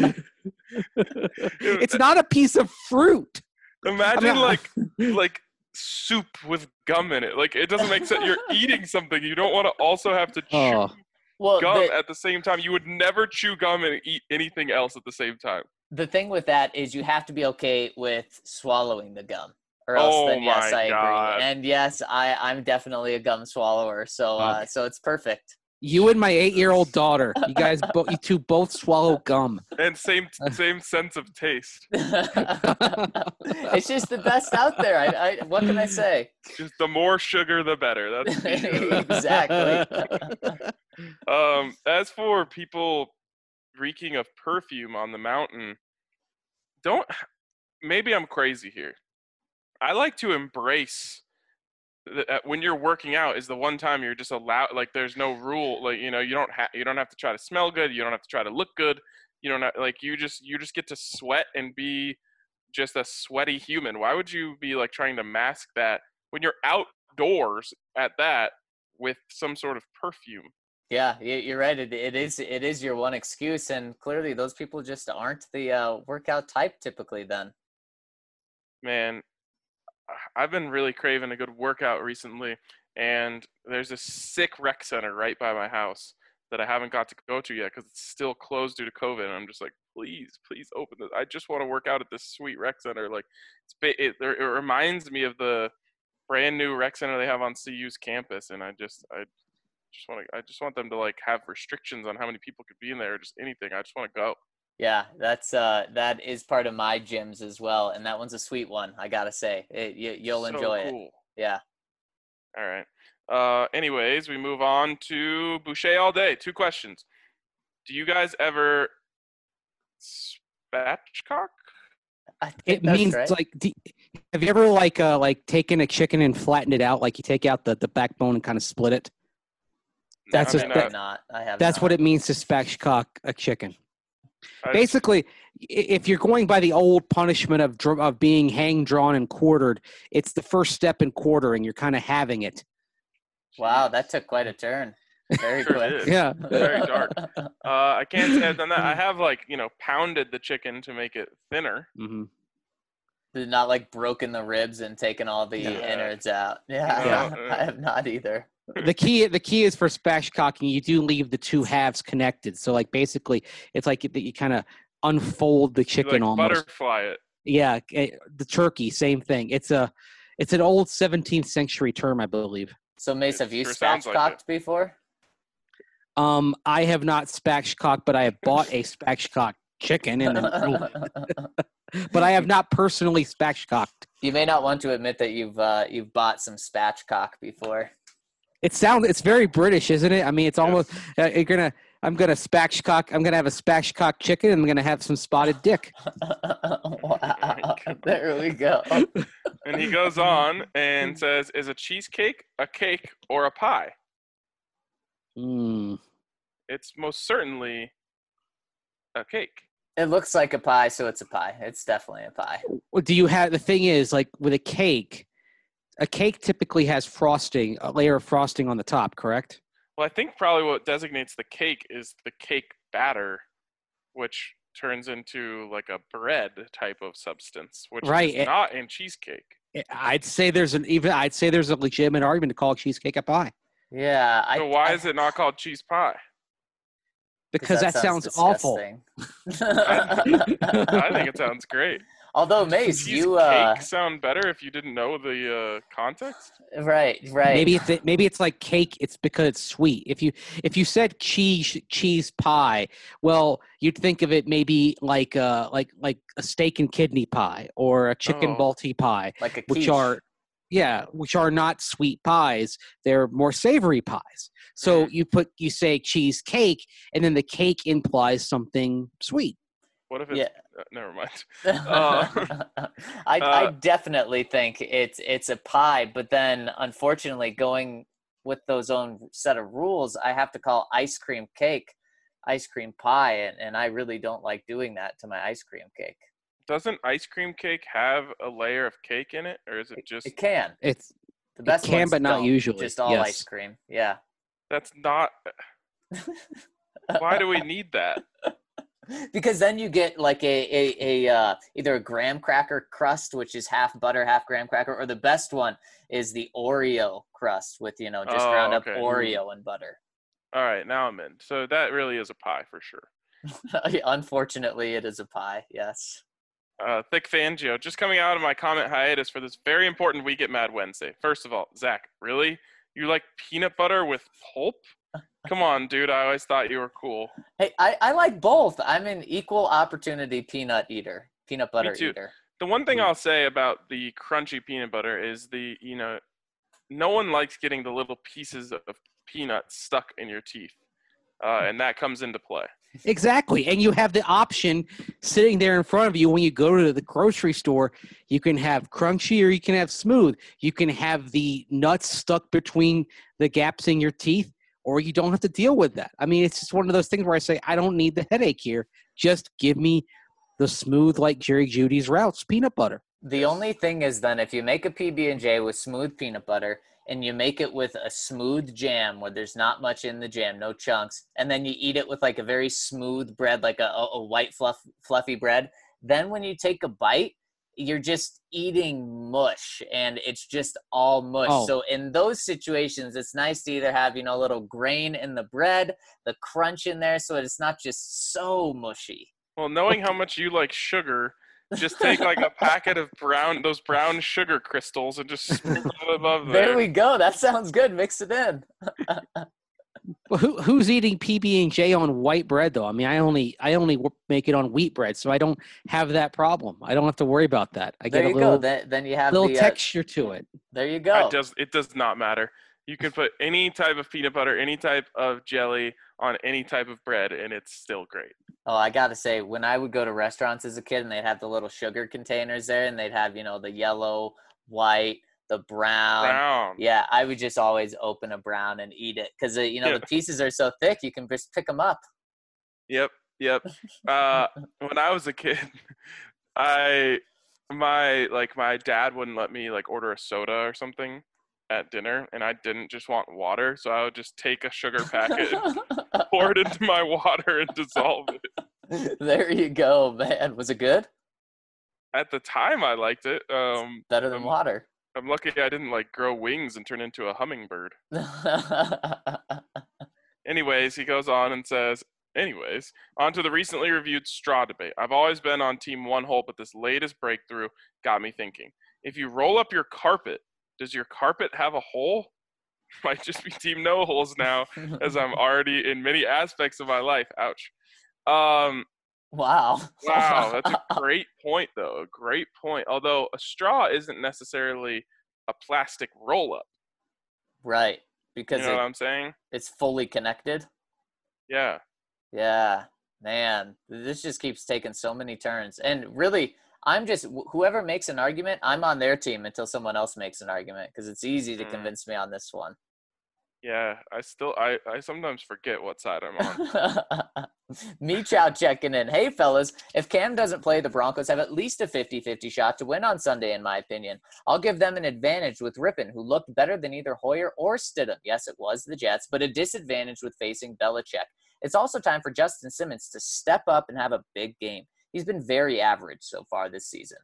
S3: it's not a piece of fruit.
S4: Imagine
S3: I mean,
S4: like soup with gum in it. Like it doesn't make sense. You're eating something. You don't want to also have to chew
S3: Oh.
S2: Well,
S4: gum at the same time. You would never chew gum and eat anything else at the same time.
S2: the thing with that is you have to be okay with swallowing the gum. Or else
S4: Oh
S2: then yes,
S4: my
S2: I
S4: God.
S2: agree. And yes, I'm definitely a gum swallower. So so it's perfect.
S3: You and my 8-year-old daughter, you guys, you two both swallow gum.
S4: And same sense of taste.
S2: It's just the best out there. I what can I say?
S4: Just the more sugar, the better. That's
S2: Exactly.
S4: As for people reeking of perfume on the mountain, maybe I'm crazy here. I like to embrace when you're working out is the one time you're just allowed, like there's no rule, like you don't have to try to smell good, you don't have to try to look good, you don't have, like you just get to sweat and be just a sweaty human. Why would you be like trying to mask that when you're outdoors at that with some sort of perfume?
S2: Yeah, you're right. It is your one excuse, and clearly those people just aren't the workout type typically. Then,
S4: Man, I've been really craving a good workout recently, and there's a sick rec center right by my house that I haven't got to go to yet because it's still closed due to COVID. And I'm just like, please open this. I just want to work out at this sweet rec center. Like, it reminds me of the brand new rec center they have on CU's campus, and I just want them to like have restrictions on how many people could be in there or just anything. I just want to go.
S2: yeah, that is part of my gyms as well, and that one's a sweet one. I gotta say, you'll
S4: So
S2: enjoy it.
S4: cool.
S2: Yeah.
S4: All right. Anyways, we move on to Boucher all day. 2 questions. Do you guys ever spatchcock?
S2: I think
S3: It
S2: that's
S3: means
S2: right.
S3: like, have you ever like taken a chicken and flattened it out? Like you take out the backbone and kind of split it. That's
S4: I
S3: just-
S4: mean,
S2: I have not. I have.
S3: That's
S2: not.
S3: what it means to spatchcock a chicken.
S4: I-
S3: Basically, if you're going by the old punishment of being hang, drawn, and quartered, it's the first step in quartering. You're kind of having it.
S2: Wow, that took quite a turn. Very
S4: Sure
S2: quick.
S4: did.
S3: Yeah.
S4: Very dark. I can't say I've done that. I have pounded the chicken to make it thinner.
S3: hmm
S2: Not like broken the ribs and taken all the
S4: Yeah.
S2: innards out. Yeah,
S4: Yeah.
S2: I have not either.
S3: The key is for spatchcocking. You do leave the two halves connected. So like basically, it's like you kind of unfold the
S4: You,
S3: chicken
S4: like
S3: almost.
S4: butterfly it.
S3: Yeah, the turkey, same thing. It's an old 17th century term, I believe.
S2: So Mace,
S4: It
S2: have you
S4: sure sounds like
S2: spatchcocked before?
S3: I have not spatchcocked, but I have bought a spatchcock chicken, but I have not personally spatchcocked.
S2: You may not want to admit that you've bought some spatchcock before.
S3: It's very British, isn't it? I mean, it's almost I'm gonna have a spatchcock chicken, and I'm gonna have some spotted dick.
S2: Wow. There we go.
S4: And he goes on and says, "Is a cheesecake a cake or a pie?"
S3: Mm.
S4: It's most certainly a cake.
S2: It looks like a pie, so it's a pie. It's definitely a pie.
S3: Well, do you have the thing is like with a cake typically has frosting, a layer of frosting on the top, correct?
S4: Well, I think probably what designates the cake is the cake batter, which turns into like a bread type of substance, which is not in cheesecake.
S3: I'd say there's a legitimate argument to call cheesecake a pie.
S2: Yeah.
S4: So why is it not called cheese pie?
S3: Because that sounds awful.
S4: I think it sounds great.
S2: Although, Mace,
S4: cake sound better if you didn't know the context.
S2: Right.
S3: Maybe it's like cake. It's because it's sweet. If you said cheese pie, well, you'd think of it maybe like a steak and kidney pie or a chicken balti pie,
S2: like a quiche.
S3: which are not sweet pies. They're more savory pies. So you say cheesecake, and then the cake implies something sweet.
S4: What if it's never mind.
S2: I definitely think it's a pie, but then unfortunately going with those own set of rules, I have to call ice cream cake ice cream pie, and I really don't like doing that to my ice cream cake.
S4: Doesn't ice cream cake have a layer of cake in it, or is it just?
S2: It can.
S3: It's
S2: the best.
S3: It can,
S2: ones
S3: but not
S2: don't.
S3: usually.
S2: Just all ice cream. Yeah.
S4: That's not. Why do we need that?
S2: Because then you get like a either a graham cracker crust, which is half butter, half graham cracker, or the best one is the Oreo crust with just ground up Oreo and butter.
S4: All right, now I'm in. So that really is a pie for sure.
S2: Unfortunately, it is a pie. Yes.
S4: Thick Fangio, just coming out of my comment hiatus for this very important We Get Mad Wednesday. First of all, Zach, really? You like peanut butter with pulp? Come on, dude. I always thought you were cool.
S2: Hey, I like both. I'm an equal opportunity peanut butter eater.
S4: The one thing I'll say about the crunchy peanut butter is no one likes getting the little pieces of peanut stuck in your teeth. And that comes into play.
S3: Exactly. And you have the option sitting there in front of you when you go to the grocery store. You can have crunchy or you can have smooth. You can have the nuts stuck between the gaps in your teeth, or you don't have to deal with that. I mean, it's just one of those things where I say, I don't need the headache here. Just give me the smooth, like Jerry Judy's Routes peanut butter.
S2: The only thing is then if you make a PB&J with smooth peanut butter, and you make it with a smooth jam where there's not much in the jam, no chunks, and then you eat it with like a very smooth bread, like a white fluffy bread, then when you take a bite, you're just eating mush, and it's just all mush. So in those situations, it's nice to either have, a little grain in the bread, the crunch in there, so it's not just so mushy.
S4: Well, knowing how much you like sugar, just take like a packet of those brown sugar crystals and just sprinkle it above there.
S2: There we go. That sounds good. Mix it in.
S3: Well, who's eating PB&J on white bread though? I mean, I only make it on wheat bread, so I don't have that problem. I don't have to worry about that. I get a little.
S2: Then you have
S3: little texture to it.
S2: There you go.
S4: It does not matter. You can put any type of peanut butter, any type of jelly on any type of bread, and it's still great.
S2: Oh, I got to say, when I would go to restaurants as a kid and they'd have the little sugar containers there and they'd have, the yellow, white, the brown. Yeah, I would just always open a brown and eat it because, the pieces are so thick, you can just pick them up.
S4: Yep. When I was a kid, my dad wouldn't let me order a soda or something at dinner, and I didn't just want water, so I would just take a sugar packet and pour it into my water and dissolve it.
S2: There you go, man. Was it good?
S4: At the time, I liked it.
S2: Better than water.
S4: I'm lucky I didn't grow wings and turn into a hummingbird. Anyways, he goes on and says, on to the recently reviewed straw debate. I've always been on team one hole, but this latest breakthrough got me thinking. If you roll up your carpet, does your carpet have a hole? Might just be team no holes now, as I'm already in many aspects of my life. Ouch.
S2: Wow.
S4: That's a great point, though. A great point. Although a straw isn't necessarily a plastic roll-up.
S2: Right. because
S4: You know what I'm saying?
S2: it's fully connected.
S4: Yeah.
S2: Yeah, man, this just keeps taking so many turns. And really, I'm just whoever makes an argument, I'm on their team until someone else makes an argument because it's easy to convince me on this one.
S4: Yeah, I sometimes forget what side I'm on.
S2: Me Chow checking in. Hey, fellas, if Cam doesn't play, the Broncos have at least a 50-50 shot to win on Sunday, in my opinion. I'll give them an advantage with Rippon, who looked better than either Hoyer or Stidham. Yes, it was the Jets, but a disadvantage with facing Belichick. It's also time for Justin Simmons to step up and have a big game. He's been very average so far this season.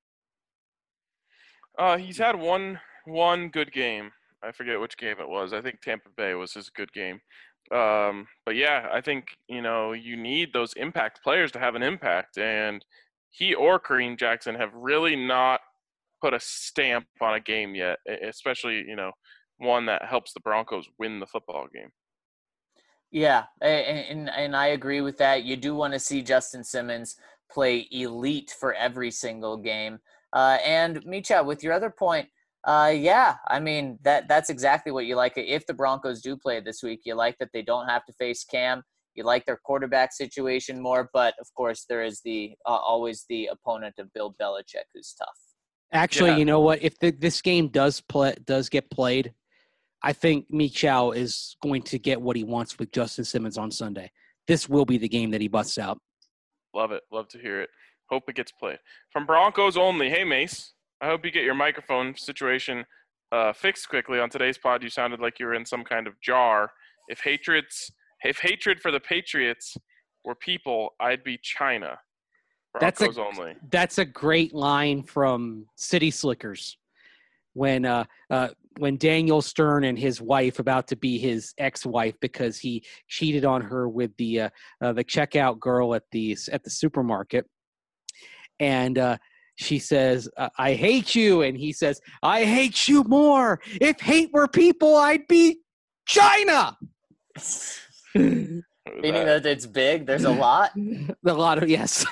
S4: He's had one good game. I forget which game it was. I think Tampa Bay was his good game. But yeah, I think, you need those impact players to have an impact. And he or Kareem Jackson have really not put a stamp on a game yet, especially, one that helps the Broncos win the football game.
S2: Yeah, and I agree with that. You do want to see Justin Simmons play elite for every single game. And Micha, with your other point, yeah, I mean that's exactly what you like. If the Broncos do play this week, you like that they don't have to face Cam. You like their quarterback situation more, but of course there is the always the opponent of Bill Belichick, who's tough.
S3: Actually, You know what? If this game does get played, I think Michel is going to get what he wants with Justin Simmons on Sunday. This will be the game that he busts out.
S4: Love it. Love to hear it. Hope it gets played. From Broncos only, hey, Mace, I hope you get your microphone situation fixed quickly. On today's pod, you sounded like you were in some kind of jar. If hatred for the Patriots were people, I'd be China. Broncos only.
S3: That's a great line from City Slickers when Daniel Stern and his wife, about to be his ex-wife because he cheated on her with the checkout girl at the supermarket, and she says, "I hate you," and he says, "I hate you more. If hate were people, I'd be China."
S2: Meaning that it's big. There's a lot.
S3: A lot of yes.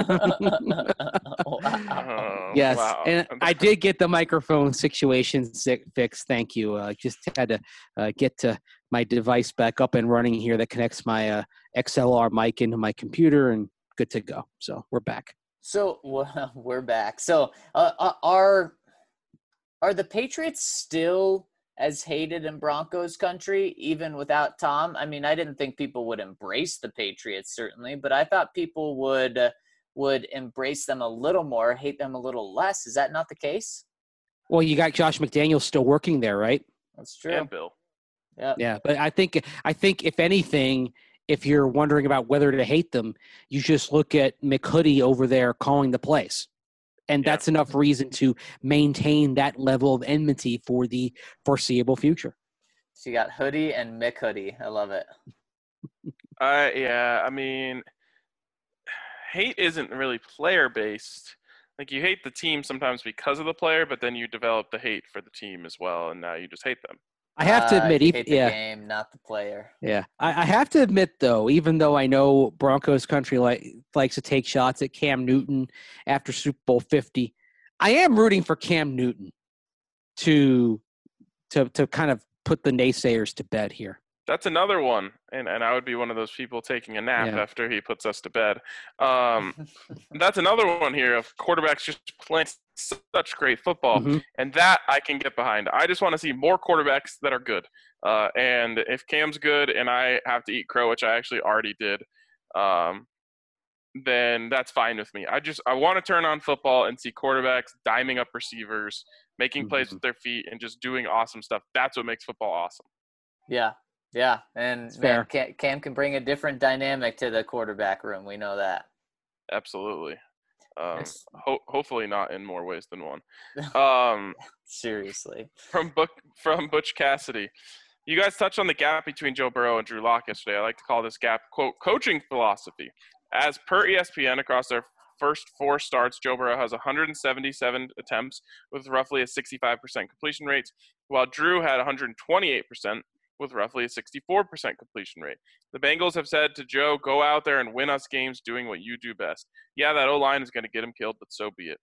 S2: Wow.
S3: Yes,
S4: wow.
S3: And I did get the microphone situation fixed. Thank you. Just had to get to my device back up and running here that connects my XLR mic into my computer, and good to go. So we're back.
S2: So we're back. So are the Patriots still as hated in Broncos country, even without Tom? I mean, I didn't think people would embrace the Patriots, certainly, but I thought people would embrace them a little more, hate them a little less. Is that not the case?
S3: Well, you got Josh McDaniels still working there, right?
S2: That's true.
S4: And Bill.
S3: Yeah, but I think if anything, if you're wondering about whether to hate them, you just look at McHoodie over there calling the plays. And that's enough reason to maintain that level of enmity for the foreseeable future.
S2: So you got Hoodie and McHoodie. I love it.
S4: Yeah, I mean, hate isn't really player-based. Like, you hate the team sometimes because of the player, but then you develop the hate for the team as well, and now you just hate them.
S3: I have to admit,
S2: you hate the game, not the player.
S3: Yeah, I have to admit, though, even though I know Broncos country likes to take shots at Cam Newton after Super Bowl 50, I am rooting for Cam Newton to kind of put the naysayers to bed here.
S4: That's another one, and I would be one of those people taking a nap after he puts us to bed. That's another one here of quarterbacks just playing such great football, and that I can get behind. I just want to see more quarterbacks that are good. And if Cam's good and I have to eat crow, which I actually already did, then that's fine with me. I want to turn on football and see quarterbacks diming up receivers, making plays with their feet, and just doing awesome stuff. That's what makes football awesome.
S2: Yeah, and man, Cam can bring a different dynamic to the quarterback room. We know that.
S4: Absolutely. Hopefully not in more ways than one.
S2: Seriously.
S4: From Butch Cassidy. You guys touched on the gap between Joe Burrow and Drew Lock yesterday. I like to call this gap, quote, coaching philosophy. As per ESPN, across their first 4 starts, Joe Burrow has 177 attempts with roughly a 65% completion rate, while Drew had 128% with roughly a 64% completion rate. The Bengals have said to Joe, go out there and win us games doing what you do best. Yeah, that O-line is going to get him killed, but so be it.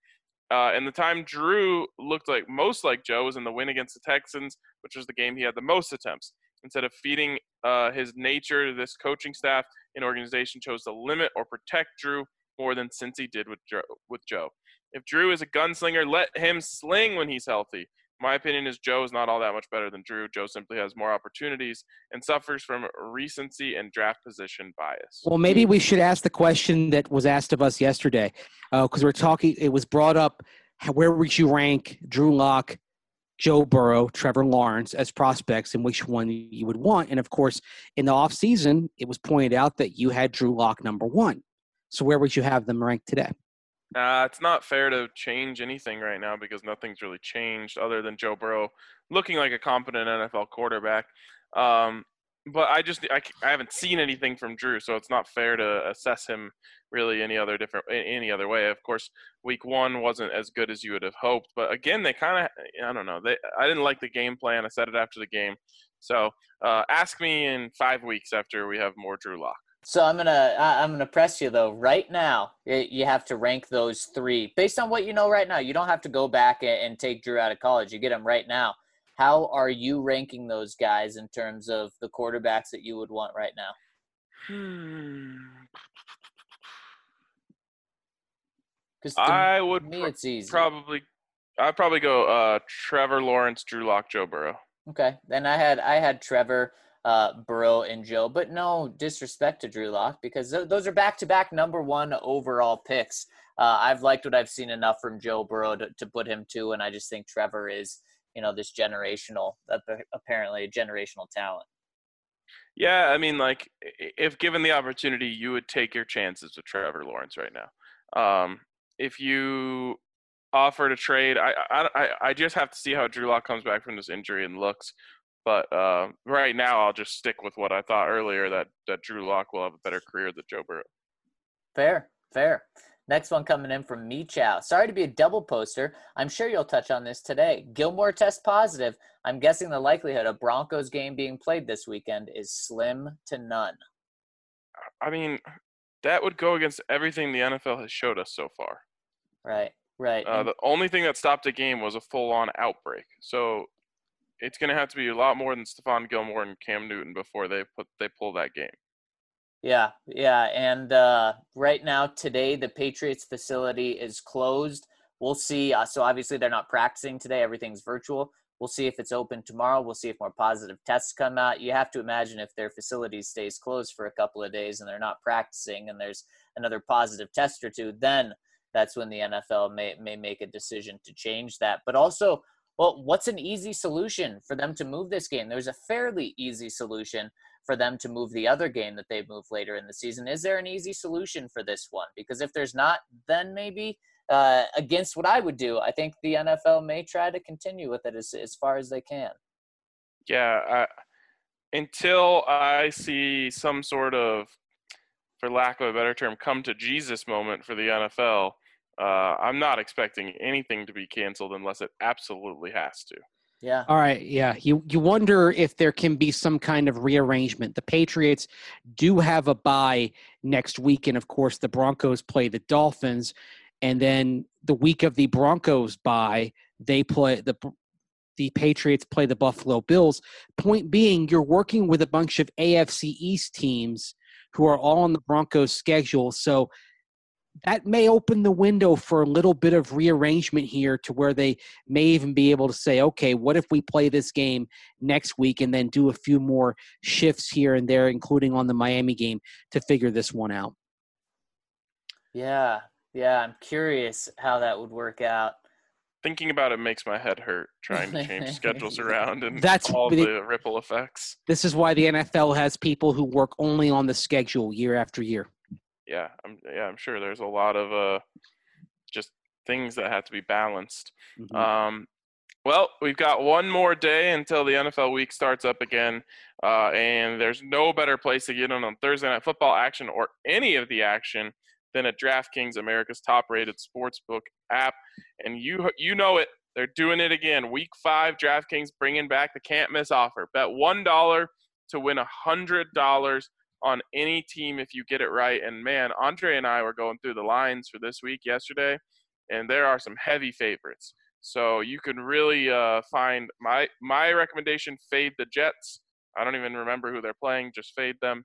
S4: And the time Drew looked like most like Joe was in the win against the Texans, which was the game he had the most attempts. Instead of feeding his nature, this coaching staff and organization chose to limit or protect Drew more than Cincy did with Joe. If Drew is a gunslinger, let him sling when he's healthy. My opinion is Joe is not all that much better than Drew. Joe simply has more opportunities and suffers from recency and draft position bias.
S3: Well, maybe we should ask the question that was asked of us yesterday, because we're talking. It was brought up: where would you rank Drew Lock, Joe Burrow, Trevor Lawrence as prospects, and which one you would want? And of course, in the offseason, it was pointed out that you had Drew Lock number one. So where would you have them ranked today?
S4: It's not fair to change anything right now because nothing's really changed other than Joe Burrow looking like a competent NFL quarterback. But I haven't seen anything from Drew, so it's not fair to assess him really any other way. Of course, week 1 wasn't as good as you would have hoped, but again, they kind of, I don't know. I didn't like the game plan. I said it after the game. So ask me in 5 weeks after we have more Drew Lock.
S2: So I'm gonna press you though. Right now, you have to rank those 3 based on what you know right now. You don't have to go back and take Drew out of college. You get him right now. How are you ranking those guys in terms of the quarterbacks that you would want right now? Because
S4: I would
S2: it's easy.
S4: I'd probably go Trevor Lawrence, Drew Lock, Joe Burrow.
S2: Okay, then I had Trevor, Burrow, and Joe, but no disrespect to Drew Lock because those are back-to-back number 1 overall picks. I've liked what I've seen enough from Joe Burrow to put him 2, and I just think Trevor is, this apparently generational talent.
S4: Yeah, I mean, like, if given the opportunity, you would take your chances with Trevor Lawrence right now. If you offered a trade, I just have to see how Drew Lock comes back from this injury and looks. But right now, I'll just stick with what I thought earlier, that Drew Lock will have a better career than Joe Burrow.
S2: Fair. Next one coming in from Me Chow. Sorry to be a double poster. I'm sure you'll touch on this today. Gilmore test positive. I'm guessing the likelihood of Broncos game being played this weekend is slim to none.
S4: I mean, that would go against everything the NFL has showed us so far.
S2: Right.
S4: The only thing that stopped a game was a full-on outbreak. So it's going to have to be a lot more than Stephon Gilmore and Cam Newton before they pull that game.
S2: Yeah. And right now, today, the Patriots facility is closed. We'll see. So obviously, they're not practicing today. Everything's virtual. We'll see if it's open tomorrow. We'll see if more positive tests come out. You have to imagine if their facility stays closed for a couple of days and they're not practicing and there's another positive test or two, then that's when the NFL may make a decision to change that. But also, well, what's an easy solution for them to move this game? There's a fairly easy solution for them to move the other game that they move later in the season. Is there an easy solution for this one? Because if there's not, then maybe against what I would do, I think the NFL may try to continue with it as far as they can.
S4: Yeah, until I see some sort of, for lack of a better term, come to Jesus moment for the NFL, I'm not expecting anything to be canceled unless it absolutely has to.
S2: Yeah.
S3: All right. Yeah. You wonder if there can be some kind of rearrangement. The Patriots do have a bye next week. And of course, the Broncos play the Dolphins. And then the week of the Broncos bye, they play the Patriots play the Buffalo Bills. Point being, you're working with a bunch of AFC East teams who are all on the Broncos schedule. So that may open the window for a little bit of rearrangement here to where they may even be able to say, okay, what if we play this game next week and then do a few more shifts here and there, including on the Miami game, to figure this one out?
S2: Yeah, I'm curious how that would work out.
S4: Thinking about it makes my head hurt, trying to change schedules around and the ripple effects.
S3: This is why the NFL has people who work only on the schedule year after year.
S4: Yeah, I'm sure there's a lot of just things that have to be balanced. Mm-hmm. Well, we've got one more day until the NFL week starts up again, and there's no better place to get in on Thursday Night Football action or any of the action than at DraftKings, America's top-rated sportsbook app. And you know it, they're doing it again. Week 5, DraftKings bringing back the can't-miss offer. Bet $1 to win $100 on any team if you get it right. And man, Andre and I were going through the lines for this week yesterday, and there are some heavy favorites. So you can really find my recommendation: fade the Jets. I don't even remember who they're playing; just fade them.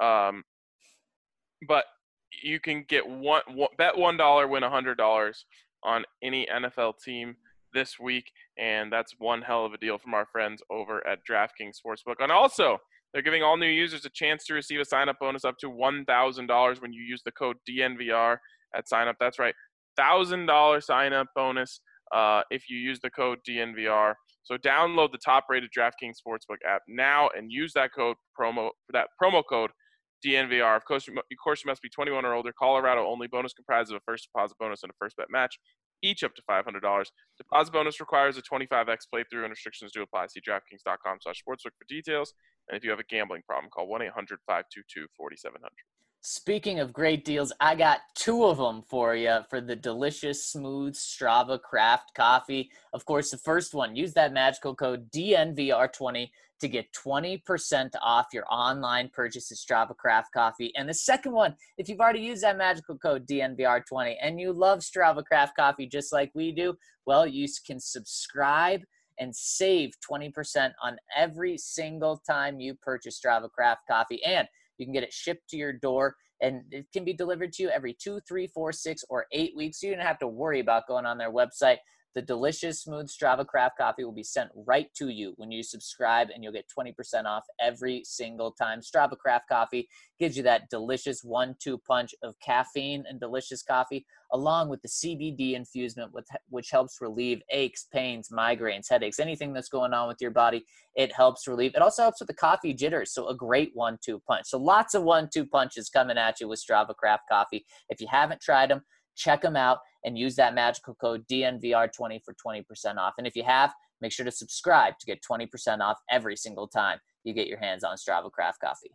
S4: But you can get bet $1, win $100 on any NFL team this week, and that's one hell of a deal from our friends over at DraftKings Sportsbook. And also, they're giving all new users a chance to receive a sign-up bonus up to $1,000 when you use the code DNVR at sign-up. That's right, $1,000 sign-up bonus if you use the code DNVR. So download the top-rated DraftKings Sportsbook app now and use that promo code DNVR. Of course, you must be 21 or older. Colorado only. Bonus comprised of a first deposit bonus and a first bet match, each up to $500. Deposit bonus requires a 25x playthrough, and restrictions do apply. See DraftKings.com/sportsbook for details. And if you have a gambling problem, call 1-800-522-4700.
S2: Speaking of great deals, I got 2 of them for you for the delicious, smooth Strava Craft coffee. Of course, the first one, use that magical code DNVR20 to get 20% off your online purchase of Strava Craft coffee. And the second one, if you've already used that magical code DNVR20 and you love Strava Craft coffee just like we do, well, you can subscribe and save 20% on every single time you purchase Strava Craft coffee. And you can get it shipped to your door, and it can be delivered to you every 2, 3, 4, 6, or 8 weeks. So you don't have to worry about going on their website. The delicious, smooth Strava Craft coffee will be sent right to you when you subscribe, and you'll get 20% off every single time. Strava Craft coffee gives you that delicious 1-2 punch of caffeine and delicious coffee, along with the CBD infusement, which helps relieve aches, pains, migraines, headaches, anything that's going on with your body. It helps relieve. It also helps with the coffee jitters, so a great 1-2 punch. So lots of 1-2 punches coming at you with Strava Craft coffee. If you haven't tried them, check them out and use that magical code DNVR20 for 20% off. And if you have, make sure to subscribe to get 20% off every single time you get your hands on Strava Craft coffee.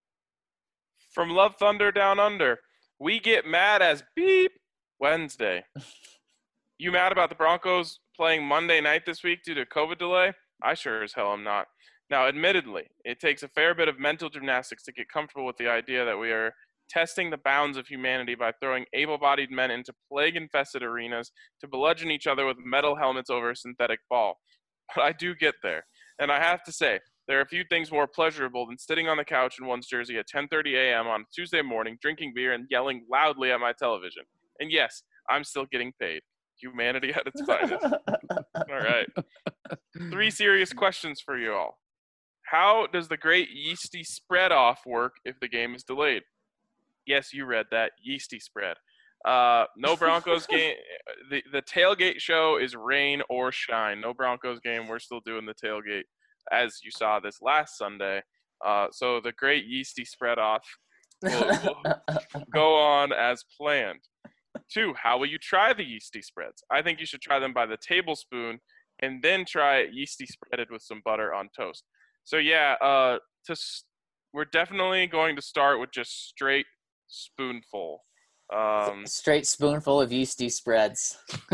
S4: From Love Thunder Down Under, we get mad as beep Wednesday. You mad about the Broncos playing Monday night this week due to COVID delay? I sure as hell am not. Now, admittedly, it takes a fair bit of mental gymnastics to get comfortable with the idea that we are testing the bounds of humanity by throwing able-bodied men into plague-infested arenas to bludgeon each other with metal helmets over a synthetic ball. But I do get there. And I have to say, there are a few things more pleasurable than sitting on the couch in one's jersey at 10:30 a.m. on Tuesday morning, drinking beer and yelling loudly at my television. And yes, I'm still getting paid. Humanity at its finest. All right. 3 serious questions for you all. How does the great yeasty spread off work if the game is delayed? Yes, you read that. Yeasty spread. No Broncos game. The tailgate show is rain or shine. No Broncos game. We're still doing the tailgate, as you saw this last Sunday. So the great yeasty spread off will go on as planned. 2, how will you try the yeasty spreads? I think you should try them by the tablespoon and then try it yeasty spreaded with some butter on toast. So yeah, we're definitely going to start with just straight spoonful.
S2: Straight spoonful of yeasty spreads.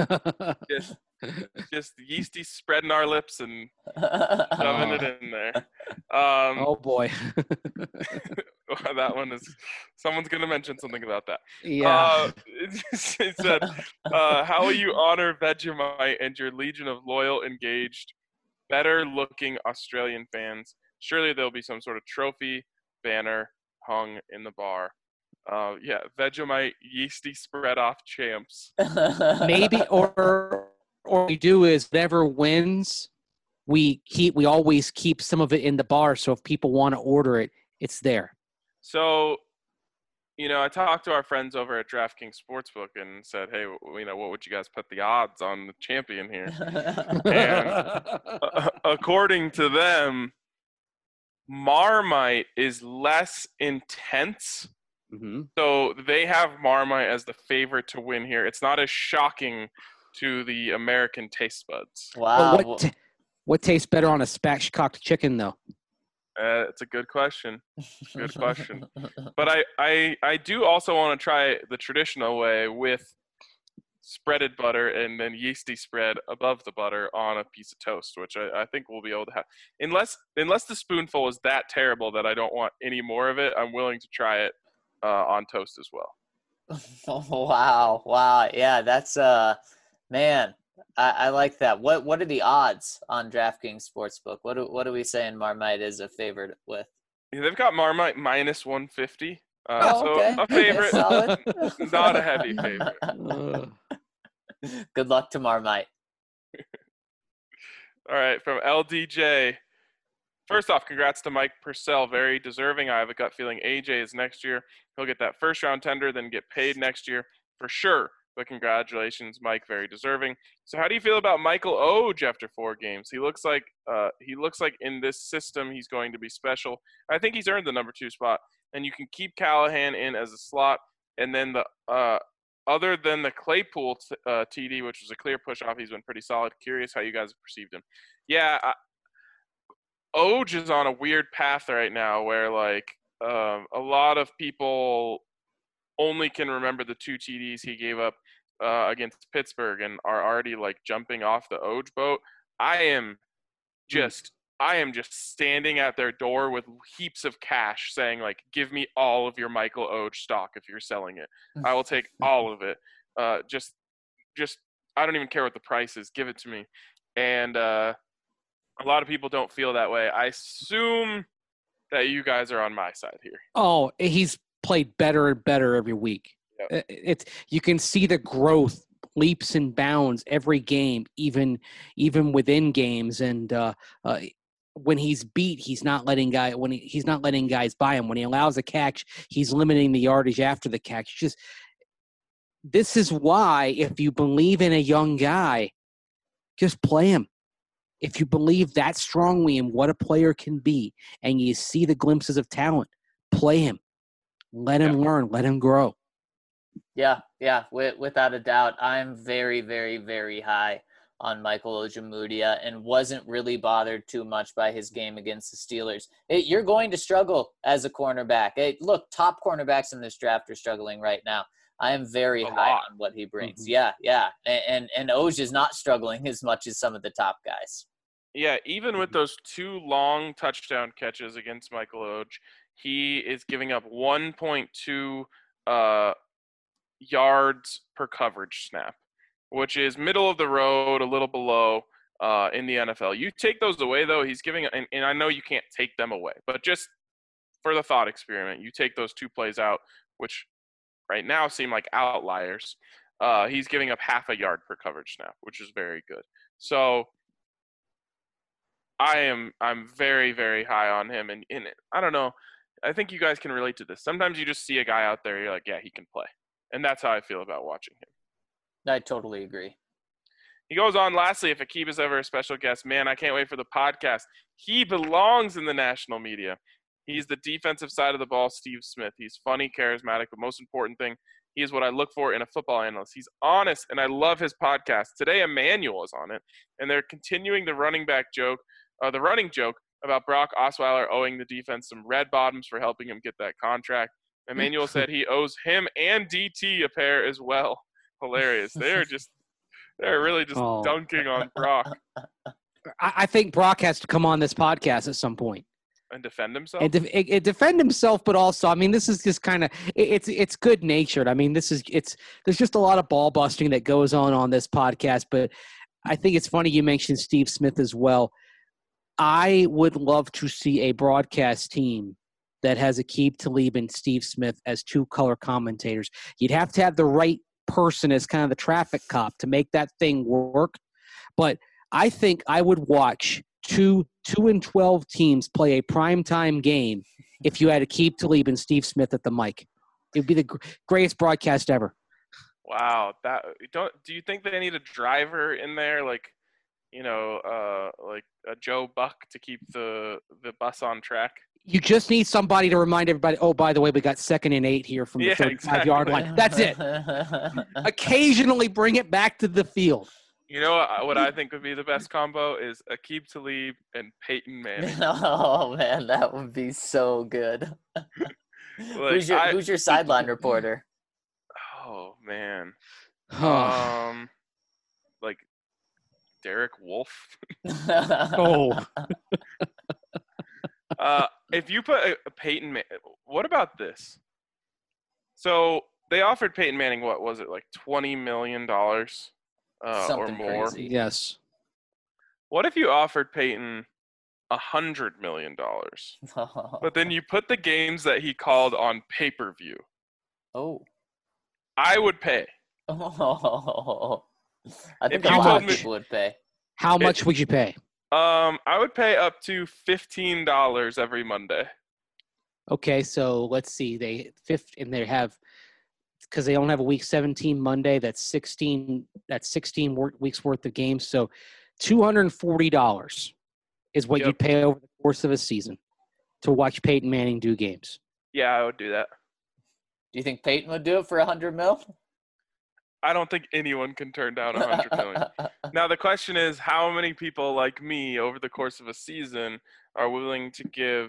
S4: just yeasty spreading our lips and shoving it in there.
S3: Oh boy.
S4: That one is, someone's going to mention something about that.
S3: Yeah.
S4: It said, how will you honor Vegemite and your legion of loyal, engaged, better-looking Australian fans? Surely there'll be some sort of trophy banner hung in the bar. Yeah, Vegemite yeasty spread off champs.
S3: Maybe, or we do is whatever wins, we always keep some of it in the bar. So if people want to order it, it's there.
S4: So, I talked to our friends over at DraftKings Sportsbook and said, hey, what would you guys put the odds on the champion here? And according to them, Marmite is less intense.
S3: Mm-hmm.
S4: So they have Marmite as the favorite to win here. It's not as shocking to the American taste buds.
S2: Wow.
S3: What tastes better on a spatchcocked chicken, though?
S4: It's a good question. Good question. But I do also want to try the traditional way with spreaded butter and then yeasty spread above the butter on a piece of toast, which I think we'll be able to have. Unless the spoonful is that terrible that I don't want any more of it, I'm willing to try it on toast as well.
S2: Wow. Yeah, that's man. I like that. What are the odds on DraftKings Sportsbook? What are we saying Marmite is a favorite with?
S4: Yeah, they've got Marmite minus 150.
S2: Oh,
S4: So
S2: okay.
S4: a favorite,
S2: Solid.
S4: not a heavy favorite.
S2: Good luck to Marmite.
S4: All right, from LDJ. First off, congrats to Mike Purcell. Very deserving. I have a gut feeling AJ is next year. He'll get that first round tender, then get paid next year for sure. But congratulations, Mike. Very deserving. So, how do you feel about Michael Oge after 4 games? He looks like in this system he's going to be special. I think he's earned the number 2 spot, and you can keep Callahan in as a slot, and then the other than the Claypool TD, which was a clear push off, he's been pretty solid. Curious how you guys have perceived him. Yeah, Oge is on a weird path right now where like a lot of people only can remember the 2 TDs he gave up against Pittsburgh and are already like jumping off the Oge boat. I am just standing at their door with heaps of cash saying like, give me all of your Michael Oge stock if you're selling it. I will take all of it. Just I don't even care what the price is. Give it to me. And a lot of people don't feel that way. I assume that you guys are on my side here.
S3: Oh, he's played better and better every week. Yep. You can see the growth, leaps and bounds every game, even within games. And when he's beat, he's not letting guys buy him. When he allows a catch, he's limiting the yardage after the catch. This is why, if you believe in a young guy, just play him. If you believe that strongly in what a player can be and you see the glimpses of talent, play him. Let him learn. Let him grow.
S2: Yeah, without a doubt. I'm very, very, very high on Michael Ojemudia and wasn't really bothered too much by his game against the Steelers. You're going to struggle as a cornerback. Look, top cornerbacks in this draft are struggling right now. I am very high on what he brings. Mm-hmm. Yeah. And Oj is not struggling as much as some of the top guys.
S4: Yeah, even with those 2 long touchdown catches against Michael Oge, he is giving up 1.2 yards per coverage snap, which is middle of the road, a little below in the NFL. You take those away, though, he's giving – and I know you can't take them away, but just for the thought experiment, you take those 2 plays out, which right now seem like outliers. He's giving up half a yard per coverage snap, which is very good. So – I'm very, very high on him, and I don't know. I think you guys can relate to this. Sometimes you just see a guy out there, you're like, yeah, he can play, and that's how I feel about watching him.
S2: I totally agree.
S4: He goes on. Lastly, if Aqib is ever a special guest, man, I can't wait for the podcast. He belongs in the national media. He's the defensive side of the ball, Steve Smith. He's funny, charismatic, but most important thing, he is what I look for in a football analyst. He's honest, and I love his podcast. Today, Emmanuel is on it, and they're continuing the running joke about Brock Osweiler owing the defense some red bottoms for helping him get that contract. Emmanuel said he owes him and DT a pair as well. Hilarious. They're really just dunking on Brock.
S3: I think Brock has to come on this podcast at some point
S4: and defend himself.
S3: And defend himself, but also, I mean, this is just kind of it's good natured. I mean, there's just a lot of ball busting that goes on this podcast. But I think it's funny you mentioned Steve Smith as well. I would love to see a broadcast team that has Aqib Talib and Steve Smith as 2 color commentators. You'd have to have the right person as kind of the traffic cop to make that thing work. But I think I would watch 2 and 12 teams play a primetime game if you had Aqib Talib and Steve Smith at the mic. It would be the greatest broadcast ever.
S4: Wow. Do you think they need a driver in there, like a Joe Buck to keep the bus on track?
S3: You just need somebody to remind everybody, oh, by the way, we got 2nd and 8 here from the 35-yard line. That's it. Occasionally bring it back to the field.
S4: You know what I think would be the best combo is Aqib Talib and Peyton Manning.
S2: Oh, man, that would be so good. Who's your sideline reporter?
S4: Oh, man. Like Derek Wolfe.
S3: Oh.
S4: If you put a Peyton Manning, what about this? So they offered Peyton Manning, what was it, like $20 million or
S2: Something
S4: more?
S2: crazy.
S3: Yes.
S4: What if you offered Peyton $100 million, but then you put the games that he called on pay-per-view?
S2: Oh.
S4: I would pay.
S2: I think
S4: If
S2: a
S4: you
S2: lot
S4: told
S2: of
S4: me-
S2: people would pay.
S3: How much would you pay?
S4: I would pay up to $15 every Monday.
S3: Okay, so let's see. They have, because they only have a week 17 Monday. That's 16. That's 16 weeks worth of games. So $240 is what
S4: Yep.
S3: you'd pay over the course of a season to watch Peyton Manning do games.
S4: Yeah, I would do that.
S2: Do you think Peyton would do it for $100 million?
S4: I don't think anyone can turn down $100 million. Now the question is, how many people like me over the course of a season are willing to give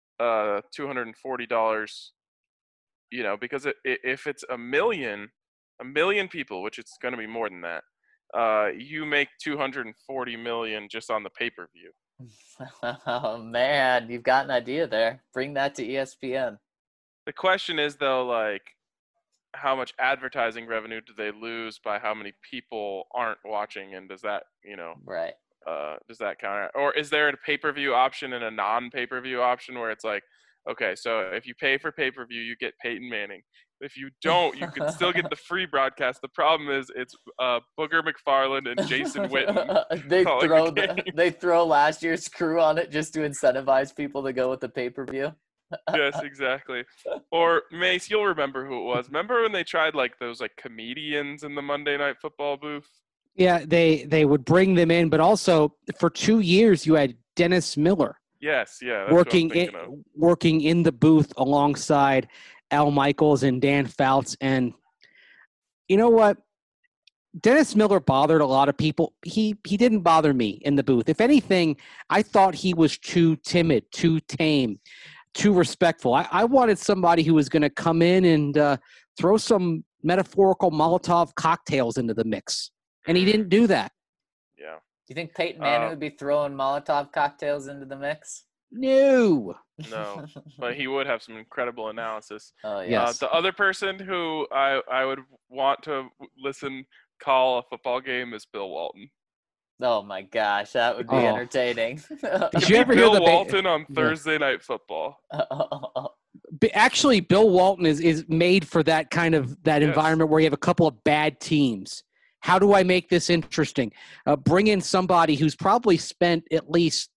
S4: $240? You know, because if it's a million people, which it's going to be more than that, you make $240 million just on the pay-per-view.
S2: Oh, man, you've got an idea there. Bring that to ESPN.
S4: The question is, though, like, how much advertising revenue do they lose by how many people aren't watching, and does that,
S2: Right.
S4: does that count? Or is there a pay-per-view option and a non-pay-per-view option where it's like, okay, so if you pay for pay-per-view, you get Peyton Manning. If you don't, you can still get the free broadcast. The problem is it's Booger McFarland and Jason Witten.
S2: They throw last year's crew on it just to incentivize people to go with the pay-per-view.
S4: Yes, exactly. Or Mace, you'll remember who it was. Remember when they tried like those like comedians in the Monday Night Football booth?
S3: Yeah, they would bring them in, but also for 2 years you had Dennis Miller.
S4: Yes, yeah. That's
S3: working in the booth alongside Al Michaels and Dan Fouts. And you know what? Dennis Miller bothered a lot of people. He didn't bother me in the booth. If anything, I thought he was too timid, too tame, too respectful. I wanted somebody who was going to come in and throw some metaphorical Molotov cocktails into the mix. And he didn't do that.
S4: Yeah.
S2: Do you think Peyton Manning would be throwing Molotov cocktails into the mix?
S3: No,
S4: but he would have some incredible analysis.
S2: Oh, yes.
S4: The other person who I would want to listen call a football game is Bill Walton.
S2: Oh, my gosh. That would be entertaining.
S3: Did you ever hear
S4: Bill Walton on Thursday Night Football?
S3: Actually, Bill Walton is made for that kind of environment where you have a couple of bad teams. How do I make this interesting? Bring in somebody who's probably spent at least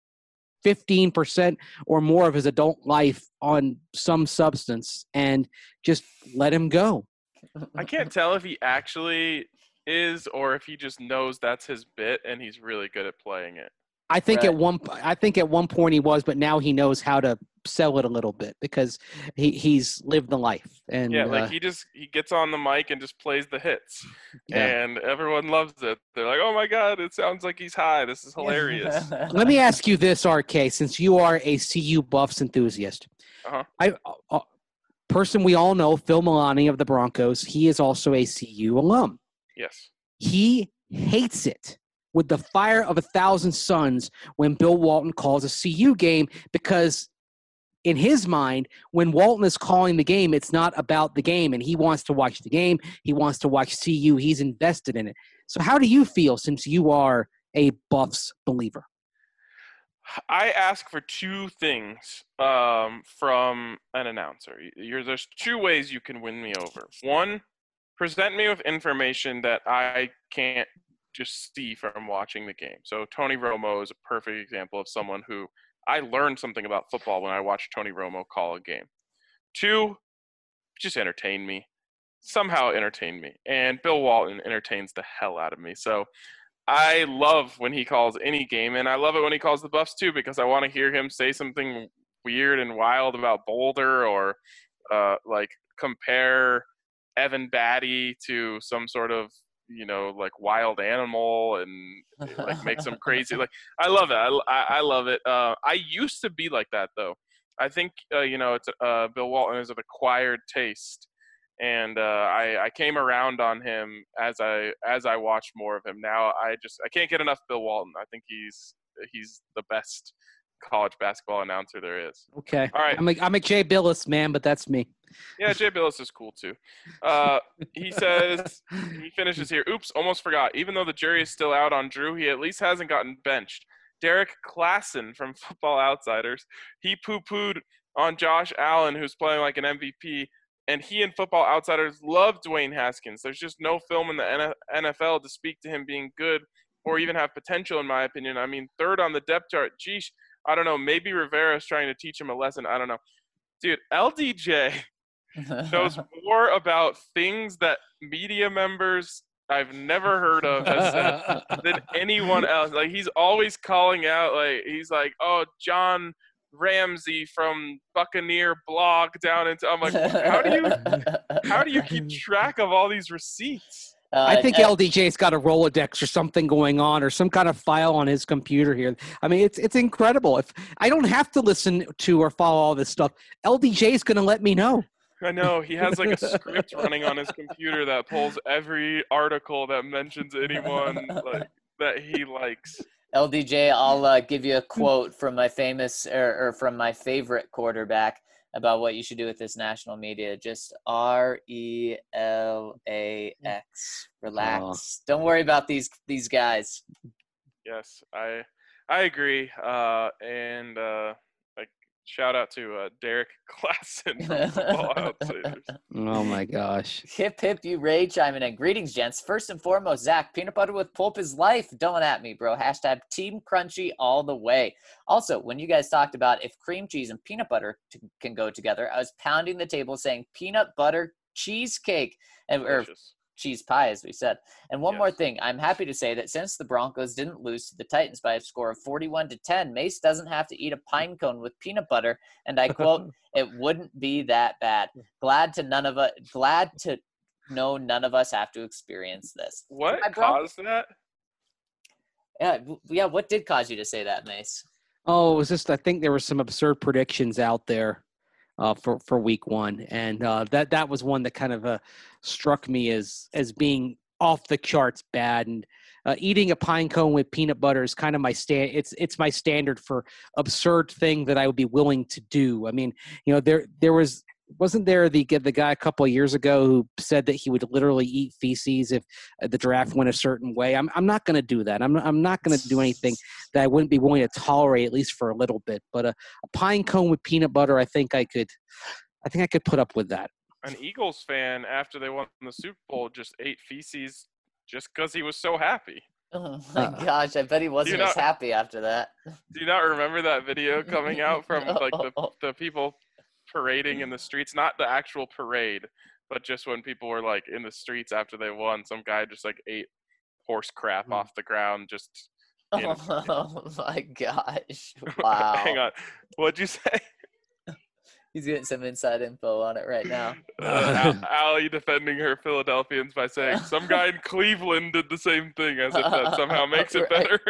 S3: 15% or more of his adult life on some substance and just let him go.
S4: I can't tell if he actually is or if he just knows that's his bit and he's really good at playing it.
S3: I think at one point he was, but now he knows how to sell it a little bit because he's lived the life. And
S4: yeah, like he gets on the mic and just plays the hits, and everyone loves it. They're like, "Oh my god, it sounds like he's high. This is hilarious."
S3: Let me ask you this, RK, since you are a CU Buffs enthusiast. Person we all know, Phil Milani of the Broncos. He is also a CU alum.
S4: Yes.
S3: He hates it with the fire of 1,000 suns when Bill Walton calls a CU game because in his mind, when Walton is calling the game, it's not about the game, and he wants to watch the game. He wants to watch CU. He's invested in it. So how do you feel since you are a Buffs believer?
S4: I ask for two things from an announcer. There's two ways you can win me over. One, present me with information that I can't just see from watching the game. So Tony Romo is a perfect example of someone who I learned something about football when I watched Tony Romo call a game. Two, just entertain me. Somehow entertain me. And Bill Walton entertains the hell out of me. So I love when he calls any game, and I love it when he calls the Buffs too, because I want to hear him say something weird and wild about Boulder or like compare Evan Batty to some sort of like wild animal and like make some crazy, like I love it. I love it. I used to be like that though. I think, it's Bill Walton is an acquired taste. And I came around on him as I watched more of him. Now I can't get enough Bill Walton. I think he's the best college basketball announcer there is.
S3: Okay.
S4: All right.
S3: I'm a Jay Billis man, but that's me.
S4: Yeah, Jay Billis is cool too. He says, he finishes here. Oops, almost forgot. Even though the jury is still out on Drew, he at least hasn't gotten benched. Derek Klassen from Football Outsiders. He poo-pooed on Josh Allen, who's playing like an MVP, and he and Football Outsiders love Dwayne Haskins. There's just no film in the NFL to speak to him being good or even have potential, in my opinion. I mean, third on the depth chart. Geesh, I don't know. Maybe Rivera's trying to teach him a lesson. I don't know. Dude, LDJ knows more about things that media members I've never heard of has said than anyone else. Like, he's always calling out, like, he's like, oh, John Ramsey from Buccaneer blog down into, I'm like, how do you keep track of all these receipts?
S3: I think LDJ's got a Rolodex or something going on, or some kind of file on his computer here. I mean, it's incredible. If I don't have to listen to or follow all this stuff, LDJ's going to let me know.
S4: I know. He has like a script running on his computer that pulls every article that mentions anyone like that he likes.
S2: LDJ, I'll give you a quote from my famous or from my favorite quarterback about what you should do with this national media. Just RELAX. Relax.
S3: Oh.
S2: Don't worry about these guys.
S4: Yes, I agree. And like, shout out to Derek Klassen from Football Outsiders.
S3: Oh my gosh.
S2: Hip hip, you Ray chiming in. Greetings, gents. First and foremost, Zach, peanut butter with pulp is life. Don't at me, bro. Hashtag Team Crunchy all the way. Also, when you guys talked about if cream cheese and peanut butter can go together, I was pounding the table saying peanut butter cheesecake or cheese pie, as we said. And one more thing, I'm happy to say that since the Broncos didn't lose to the Titans by a score of 41-10, Mace doesn't have to eat a pine cone with peanut butter, and I quote, "It wouldn't be that bad. Glad to know none of us have to experience this."
S4: What caused that?
S2: Yeah. What did cause you to say that, Mace?
S3: Oh, it was just, I think there were some absurd predictions out there for week one. And that was one that kind of struck me as being off the charts bad. And eating a pine cone with peanut butter is kind of my it's my standard for absurd thing that I would be willing to do. I mean, you know, wasn't there the guy a couple of years ago who said that he would literally eat feces if the draft went a certain way? I'm not going to do that. I'm not going to do anything that I wouldn't be willing to tolerate, at least for a little bit. But a pine cone with peanut butter, I think I could put up with that.
S4: An Eagles fan, after they won the Super Bowl, just ate feces just because he was so happy.
S2: Oh my gosh, I bet he wasn't as happy after that.
S4: Do you not remember that video coming out from like the people parading in the streets? Not the actual parade, but just when people were like in the streets after they won, some guy just like ate horse crap off the ground. Just
S2: oh my gosh! Wow.
S4: Hang on, what'd you say?
S2: He's getting some inside info on it right now.
S4: Allie defending her Philadelphians by saying some guy in Cleveland did the same thing, as if that somehow makes it better.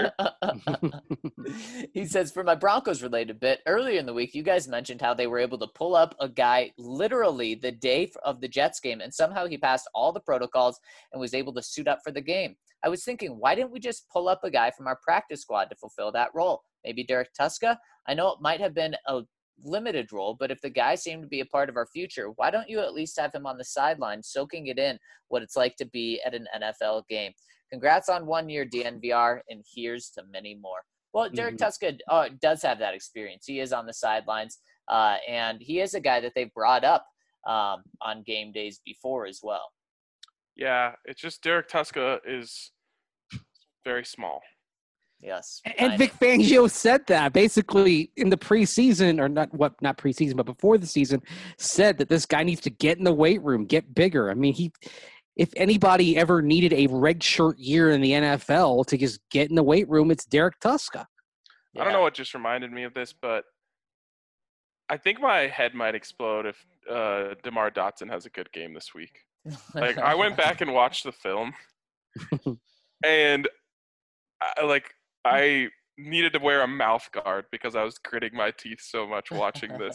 S2: He says, for my Broncos related bit, earlier in the week, you guys mentioned how they were able to pull up a guy literally the day of the Jets game, and somehow he passed all the protocols and was able to suit up for the game. I was thinking, why didn't we just pull up a guy from our practice squad to fulfill that role? Maybe Derek Tuszka? I know it might have been a limited role, but if the guy seemed to be a part of our future, why don't you at least have him on the sideline soaking it in what it's like to be at an NFL game? Congrats on 1 year, DNVR, and here's to many more. Well, Derek Tuszka does have that experience. He is on the sidelines, and he is a guy that they've brought up on game days before as well.
S4: Yeah, it's just Derek Tuszka is very small.
S2: Yes.
S3: And Vic Fangio said that basically in the preseason, or not preseason, but before the season, said that this guy needs to get in the weight room, get bigger. I mean, if anybody ever needed a red shirt year in the NFL to just get in the weight room, it's Derek Tuszka.
S4: Yeah. I don't know what just reminded me of this, but I think my head might explode if DeMar Dotson has a good game this week. Like, I went back and watched the film, and I needed to wear a mouth guard because I was gritting my teeth so much watching this.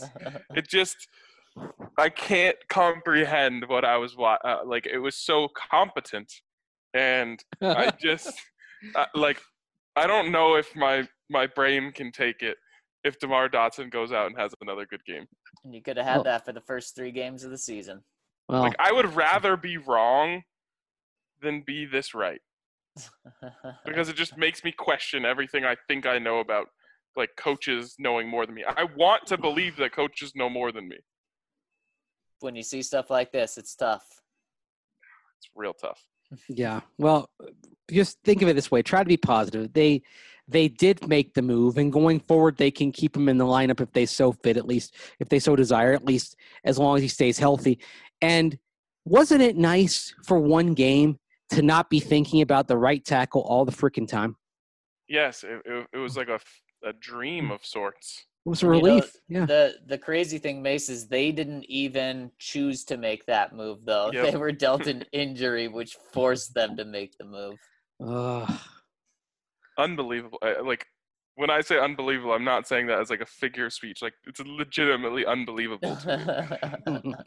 S4: I can't comprehend what I was like. It was so competent, and I just I don't know if my brain can take it. if DeMar Dotson goes out and has another good game.
S2: And you could have had that for the first 3 games of the season.
S3: Well,
S4: Like, I would rather be wrong than be this right. Because it just makes me question everything I think I know about, like, coaches knowing more than me. I want to believe that coaches know more than me.
S2: When you see stuff like this, it's tough.
S4: It's real tough.
S3: yeah. Well, just think of it this way. Try to be positive. They did make the move, and going forward, they can keep him in the lineup if they so fit, at least if they so desire, at least as long as he stays healthy. And wasn't it nice for one game to not be thinking about the right tackle all the freaking time?
S4: Yes, it was like a dream of sorts.
S3: It was a relief.
S2: The crazy thing, Mace, is they didn't even choose to make that move, though.
S4: Yep.
S2: They were dealt an injury, which forced them to make the move.
S4: Unbelievable. Like, when I say unbelievable, I'm not saying that as like a figure of speech. Like, it's legitimately unbelievable to me.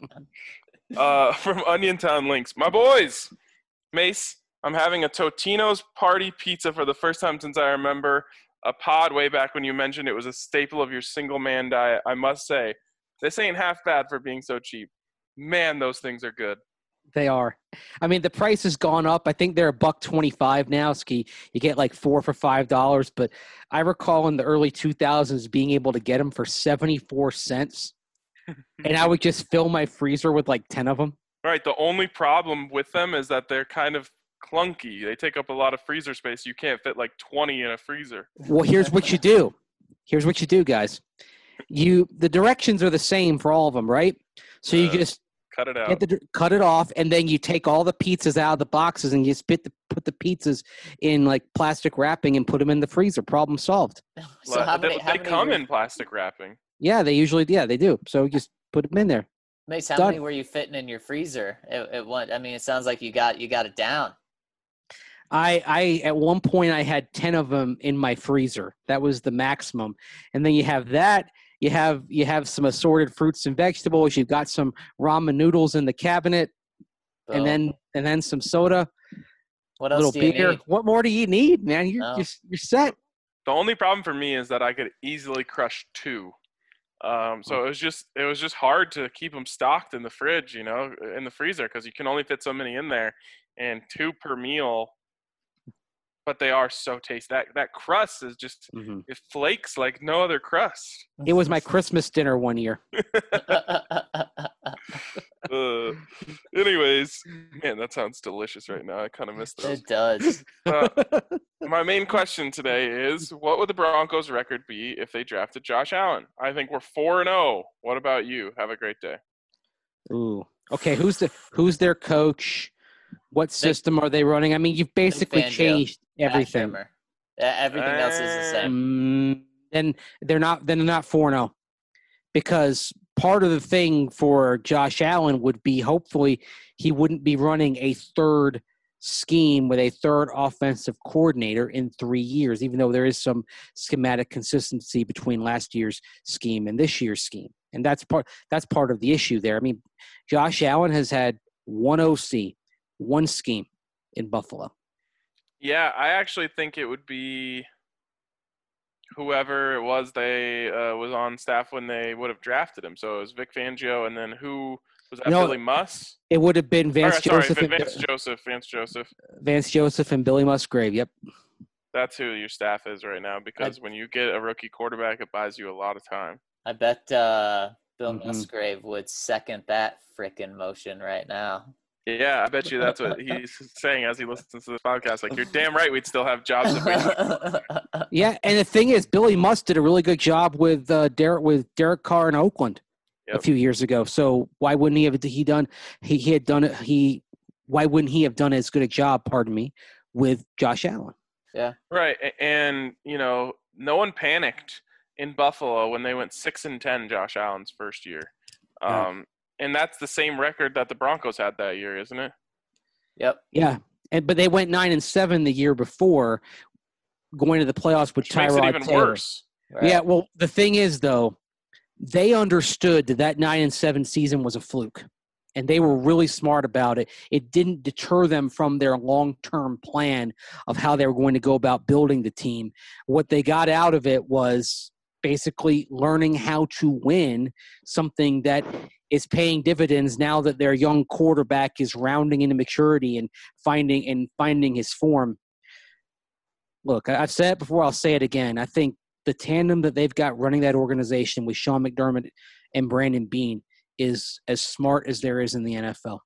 S4: From Onion Town Links, my boys, Mace, I'm having a Totino's party pizza for the first time since I remember a pod way back when you mentioned it was a staple of your single man diet. I must say, this ain't half bad for being so cheap. Man, those things are good.
S3: They are. I mean, the price has gone up. I think they're $1.25 now. Ski, you get like 4 for $5. But I recall in the early 2000s being able to get them for 74 cents, and I would just fill my freezer with like 10 of them.
S4: Right. The only problem with them is that they're kind of clunky. They take up a lot of freezer space. You can't fit like 20 in a freezer.
S3: Well, here's what you do. Here's what you do, guys. The directions are the same for all of them, right? So you just
S4: cut it out.
S3: Cut it off, and then you take all the pizzas out of the boxes and you put the pizzas in like plastic wrapping and put them in the freezer. Problem solved.
S2: So
S4: they come in plastic wrapping.
S3: Yeah, they usually they do. So just put them in there.
S2: Mace, how many were you fitting in your freezer at one? I mean, it sounds like you got it down.
S3: I at one point I had 10 of them in my freezer. That was the maximum. And then you have that. You have some assorted fruits and vegetables. You've got some ramen noodles in the cabinet, and then some soda.
S2: What else do you need?
S3: What more do you need, man? You're set.
S4: The only problem for me is that I could easily crush 2. So it was just hard to keep them stocked in the fridge, in the freezer, because you can only fit so many in there, and 2 per meal. But they are so tasty. That crust is just it flakes like no other crust.
S3: It was my Christmas dinner one year.
S4: Anyways, man, that sounds delicious right now. I kind of miss those.
S2: It does.
S4: My main question today is, what would the Broncos' record be if they drafted Josh Allen? I think we're 4-0. What about you? Have a great day.
S3: Ooh. Okay, who's their coach? What system are they running? I mean, you've basically changed everything.
S2: Everything else is the same.
S3: Then they're not 4-0, because part of the thing for Josh Allen would be hopefully he wouldn't be running a third scheme with a third offensive coordinator in 3 years, even though there is some schematic consistency between last year's scheme and this year's scheme. And that's part of the issue there. I mean, Josh Allen has had one OC, one scheme in Buffalo.
S4: Yeah, I actually think it would be whoever it was they was on staff when they would have drafted him. So it was Vic Fangio, and then who was that? Billy Muss?
S3: It would have been Vance Joseph. Vance Joseph and Billy Musgrave. Yep.
S4: That's who your staff is right now, because when you get a rookie quarterback, it buys you a lot of time.
S2: I bet Bill Musgrave would second that frickin' motion right now.
S4: Yeah, I bet you that's what he's saying as he listens to this podcast. Like, you're damn right we'd still have jobs if we
S3: Yeah, and the thing is, Billy Muss did a really good job with Derek Carr in Oakland a few years ago. So why wouldn't he have done why wouldn't he have done as good a job, with Josh Allen?
S4: Yeah. Right. And, no one panicked in Buffalo when they went 6-10 Josh Allen's first year. And that's the same record that the Broncos had that year, isn't it?
S2: Yep.
S3: Yeah. But they went 9-7 the year before, going to the playoffs with Tyrod Taylor.
S4: Makes it even worse.
S3: Right. Yeah. Well, the thing is, though, they understood that 9-7 season was a fluke, and they were really smart about it. It didn't deter them from their long-term plan of how they were going to go about building the team. What they got out of it was basically learning how to win, something that is paying dividends now that their young quarterback is rounding into maturity and finding his form. Look, I've said it before, I'll say it again. I think the tandem that they've got running that organization with Sean McDermott and Brandon Beane is as smart as there is in the NFL.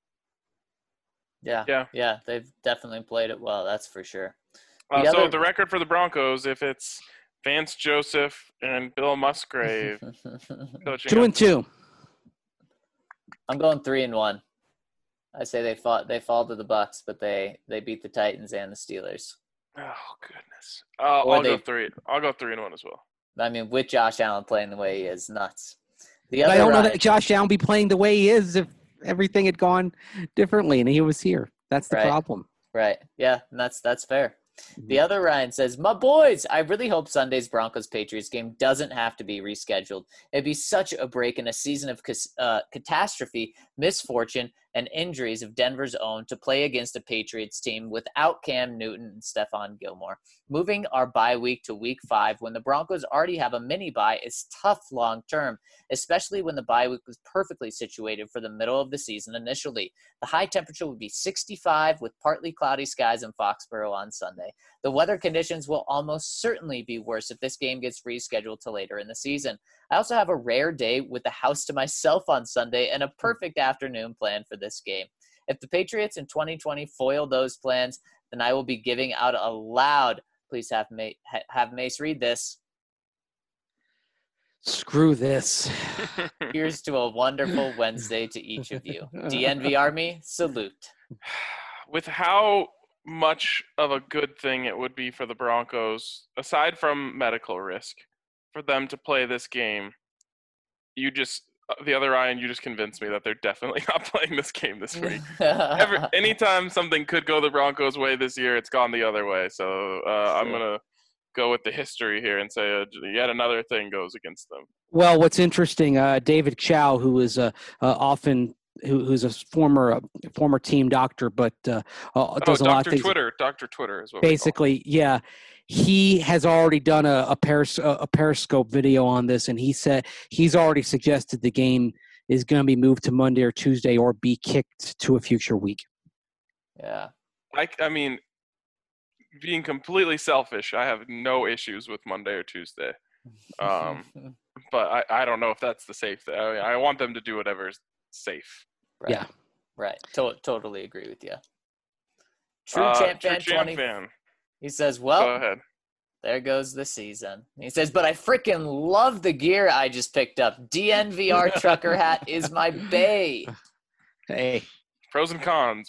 S2: Yeah, they've definitely played it well, that's for sure.
S4: So the record for the Broncos, if it's Vance Joseph and Bill Musgrave coaching
S3: 2-2.
S2: I'm going 3-1. I say they fall to the Bucs, but they beat the Titans and the Steelers.
S4: Oh goodness! I'll go 3. I'll go 3-1 as well.
S2: I mean, with Josh Allen playing the way he is, nuts.
S3: I don't know that Josh Allen be playing the way he is if everything had gone differently and he was here. That's the problem.
S2: Right. Yeah, and that's fair. The other Ryan says, my boys, I really hope Sunday's Broncos-Patriots game doesn't have to be rescheduled. It'd be such a break in a season of catastrophe, misfortune, and injuries of Denver's own to play against a Patriots team without Cam Newton and Stephon Gilmore. Moving our bye week to week 5 when the Broncos already have a mini bye is tough long term, especially when the bye week was perfectly situated for the middle of the season initially. The high temperature would be 65 with partly cloudy skies in Foxborough on Sunday. The weather conditions will almost certainly be worse if this game gets rescheduled to later in the season. I also have a rare day with the house to myself on Sunday and a perfect afternoon plan for this game. If the Patriots in 2020 foil those plans, then I will be giving out a loud, please have Mace read this.
S3: Screw this.
S2: Here's to a wonderful Wednesday to each of you. DNV Army, salute.
S4: With how much of a good thing it would be for the Broncos, aside from medical risk, for them to play this game, you just convinced me that they're definitely not playing this game this week. Anytime something could go the Broncos' way this year, it's gone the other way. So I'm going to go with the history here and say yet another thing goes against them.
S3: Well, what's interesting, David Chow, who is who's a former team doctor, but does a lot of things.
S4: Dr. Twitter is what
S3: basically, yeah. He has already done a Periscope video on this, and he said he's already suggested the game is going to be moved to Monday or Tuesday or be kicked to a future week.
S2: Yeah.
S4: I mean, being completely selfish, I have no issues with Monday or Tuesday. But I don't know if that's the safe thing. I want them to do whatever's safe.
S2: Right.
S3: Yeah.
S2: Right. Totally agree with you. True Champ Fan. He says, well,
S4: go ahead.
S2: There goes the season. He says, but I freaking love the gear I just picked up. DNVR trucker hat is my bae.
S3: Hey.
S4: Pros and cons.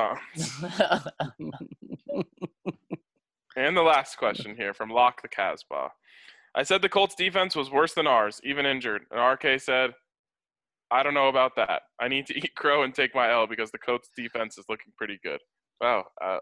S4: And the last question here from Lock the Casbah. I said the Colts defense was worse than ours, even injured. And RK said, I don't know about that. I need to eat crow and take my L because the Colts defense is looking pretty good. Wow.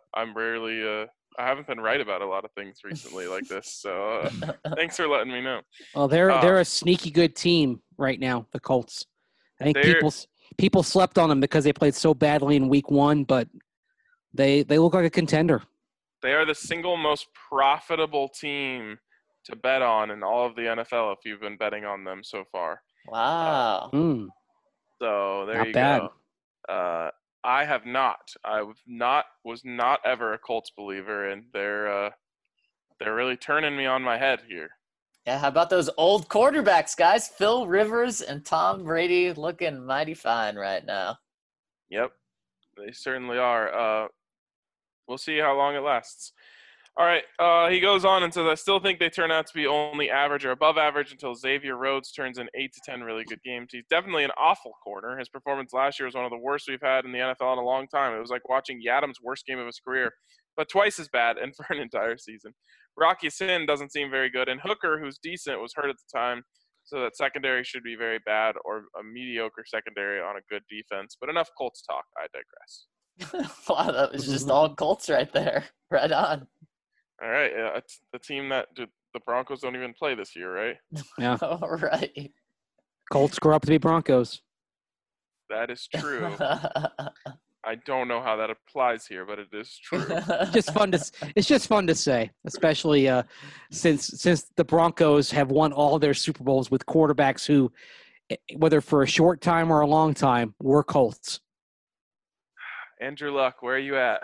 S4: I haven't been right about a lot of things recently like this. So thanks for letting me know.
S3: Well, they're a sneaky good team right now, the Colts. I think people slept on them because they played so badly in week 1, but they look like a contender.
S4: They are the single most profitable team to bet on in all of the NFL if you've been betting on them so far.
S2: Wow.
S4: So there you go. I have not. I was not ever a Colts believer, and they're really turning me on my head here.
S2: Yeah, how about those old quarterbacks, guys? Phil Rivers and Tom Brady looking mighty fine right now.
S4: Yep, they certainly are. We'll see how long it lasts. All right, he goes on and says, I still think they turn out to be only average or above average until Xavier Rhodes turns in 8 to 10 really good games. He's definitely an awful corner. His performance last year was one of the worst we've had in the NFL in a long time. It was like watching Yadam's worst game of his career, but twice as bad and for an entire season. Rocky Sin doesn't seem very good, and Hooker, who's decent, was hurt at the time, so that secondary should be very bad or a mediocre secondary on a good defense. But enough Colts talk. I digress.
S2: Wow, that was just all Colts right there. Right on.
S4: All right, it's the team that the Broncos don't even play this year, right?
S3: Yeah.
S2: All right.
S3: Colts grow up to be Broncos.
S4: That is true. I don't know how that applies here, but it is true.
S3: It's just fun to say, especially since the Broncos have won all their Super Bowls with quarterbacks who, whether for a short time or a long time, were Colts.
S4: Andrew Luck, where are you at?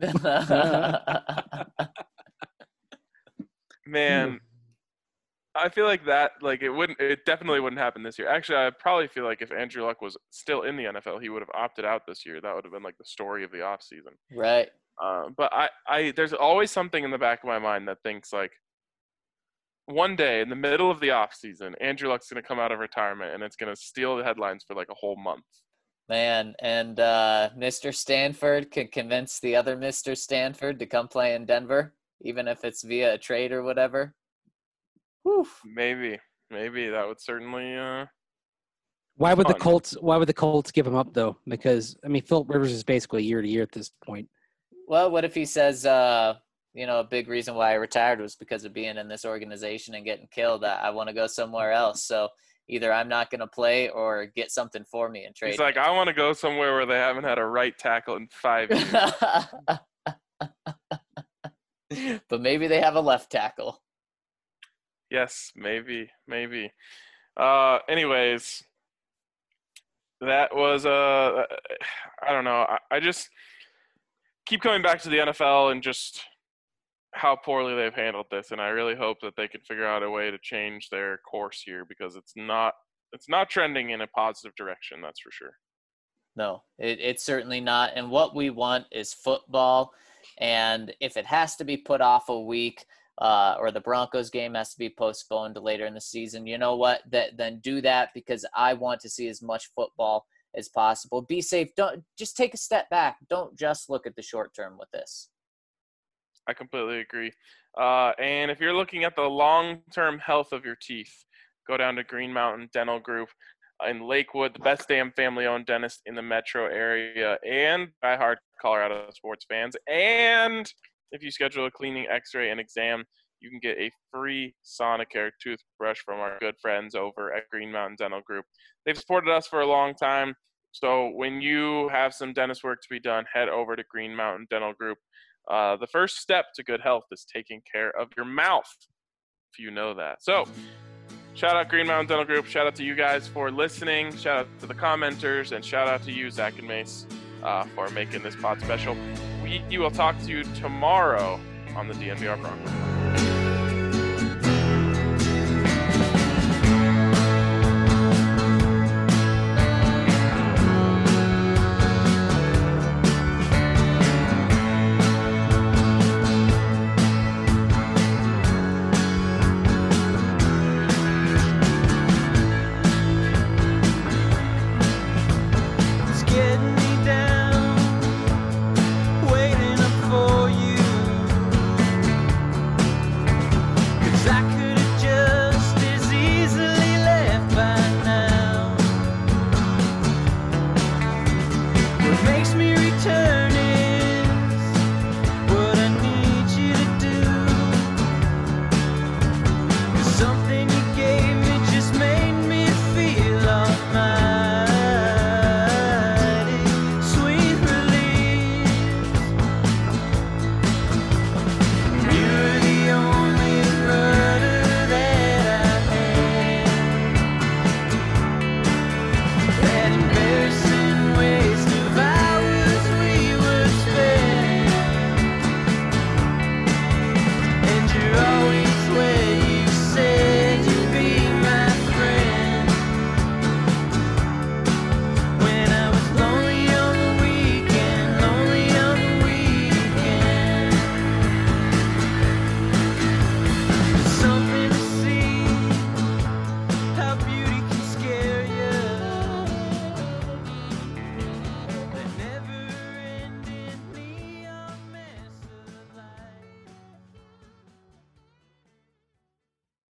S4: Man, I feel like it definitely wouldn't happen this year. Actually, I probably feel like if Andrew Luck was still in the NFL, he would have opted out this year. That would have been like the story of the offseason.
S2: Right.
S4: But there's always something in the back of my mind that thinks like one day in the middle of the offseason, Andrew Luck's going to come out of retirement and it's going to steal the headlines for like a whole month.
S2: Man, and Mr. Stanford can convince the other Mr. Stanford to come play in Denver, even if it's via a trade or whatever. Whew.
S4: Maybe that would certainly.
S3: Why would the Colts give him up though? Because I mean, Philip Rivers is basically year to year at this point.
S2: Well, what if he says, a big reason why I retired was because of being in this organization and getting killed. I want to go somewhere else. So either I'm not going to play or get something for me and trade.
S4: He's like, I want to go somewhere where they haven't had a right tackle in 5
S2: years. But maybe they have a left tackle.
S4: Yes, maybe. Anyways, that was I don't know. I just keep coming back to the NFL and just how poorly they've handled this, and I really hope that they can figure out a way to change their course here because it's not trending in a positive direction, that's for sure.
S2: No, it's certainly not. And what we want is football, and if it has to be put off a week, or the Broncos game has to be postponed to later in the season, you know what? Then do that because I want to see as much football as possible. Be safe. Don't just take a step back. Don't just look at the short term with this.
S4: I completely agree. And if you're looking at the long-term health of your teeth, go down to Green Mountain Dental Group in Lakewood, the best damn family-owned dentist in the metro area, and diehard Colorado sports fans. And if you schedule a cleaning, x-ray, and exam, you can get a free Sonicare toothbrush from our good friends over at Green Mountain Dental Group. They've supported us for a long time, so when you have some dentist work to be done, head over to Green Mountain Dental Group. The first step to good health is taking care of your mouth, if you know that. So, shout out Green Mountain Dental Group. Shout out to you guys for listening. Shout out to the commenters, and shout out to you, Zach and Mace, for making this pod special. We will talk to you tomorrow on the DNVR Broncos.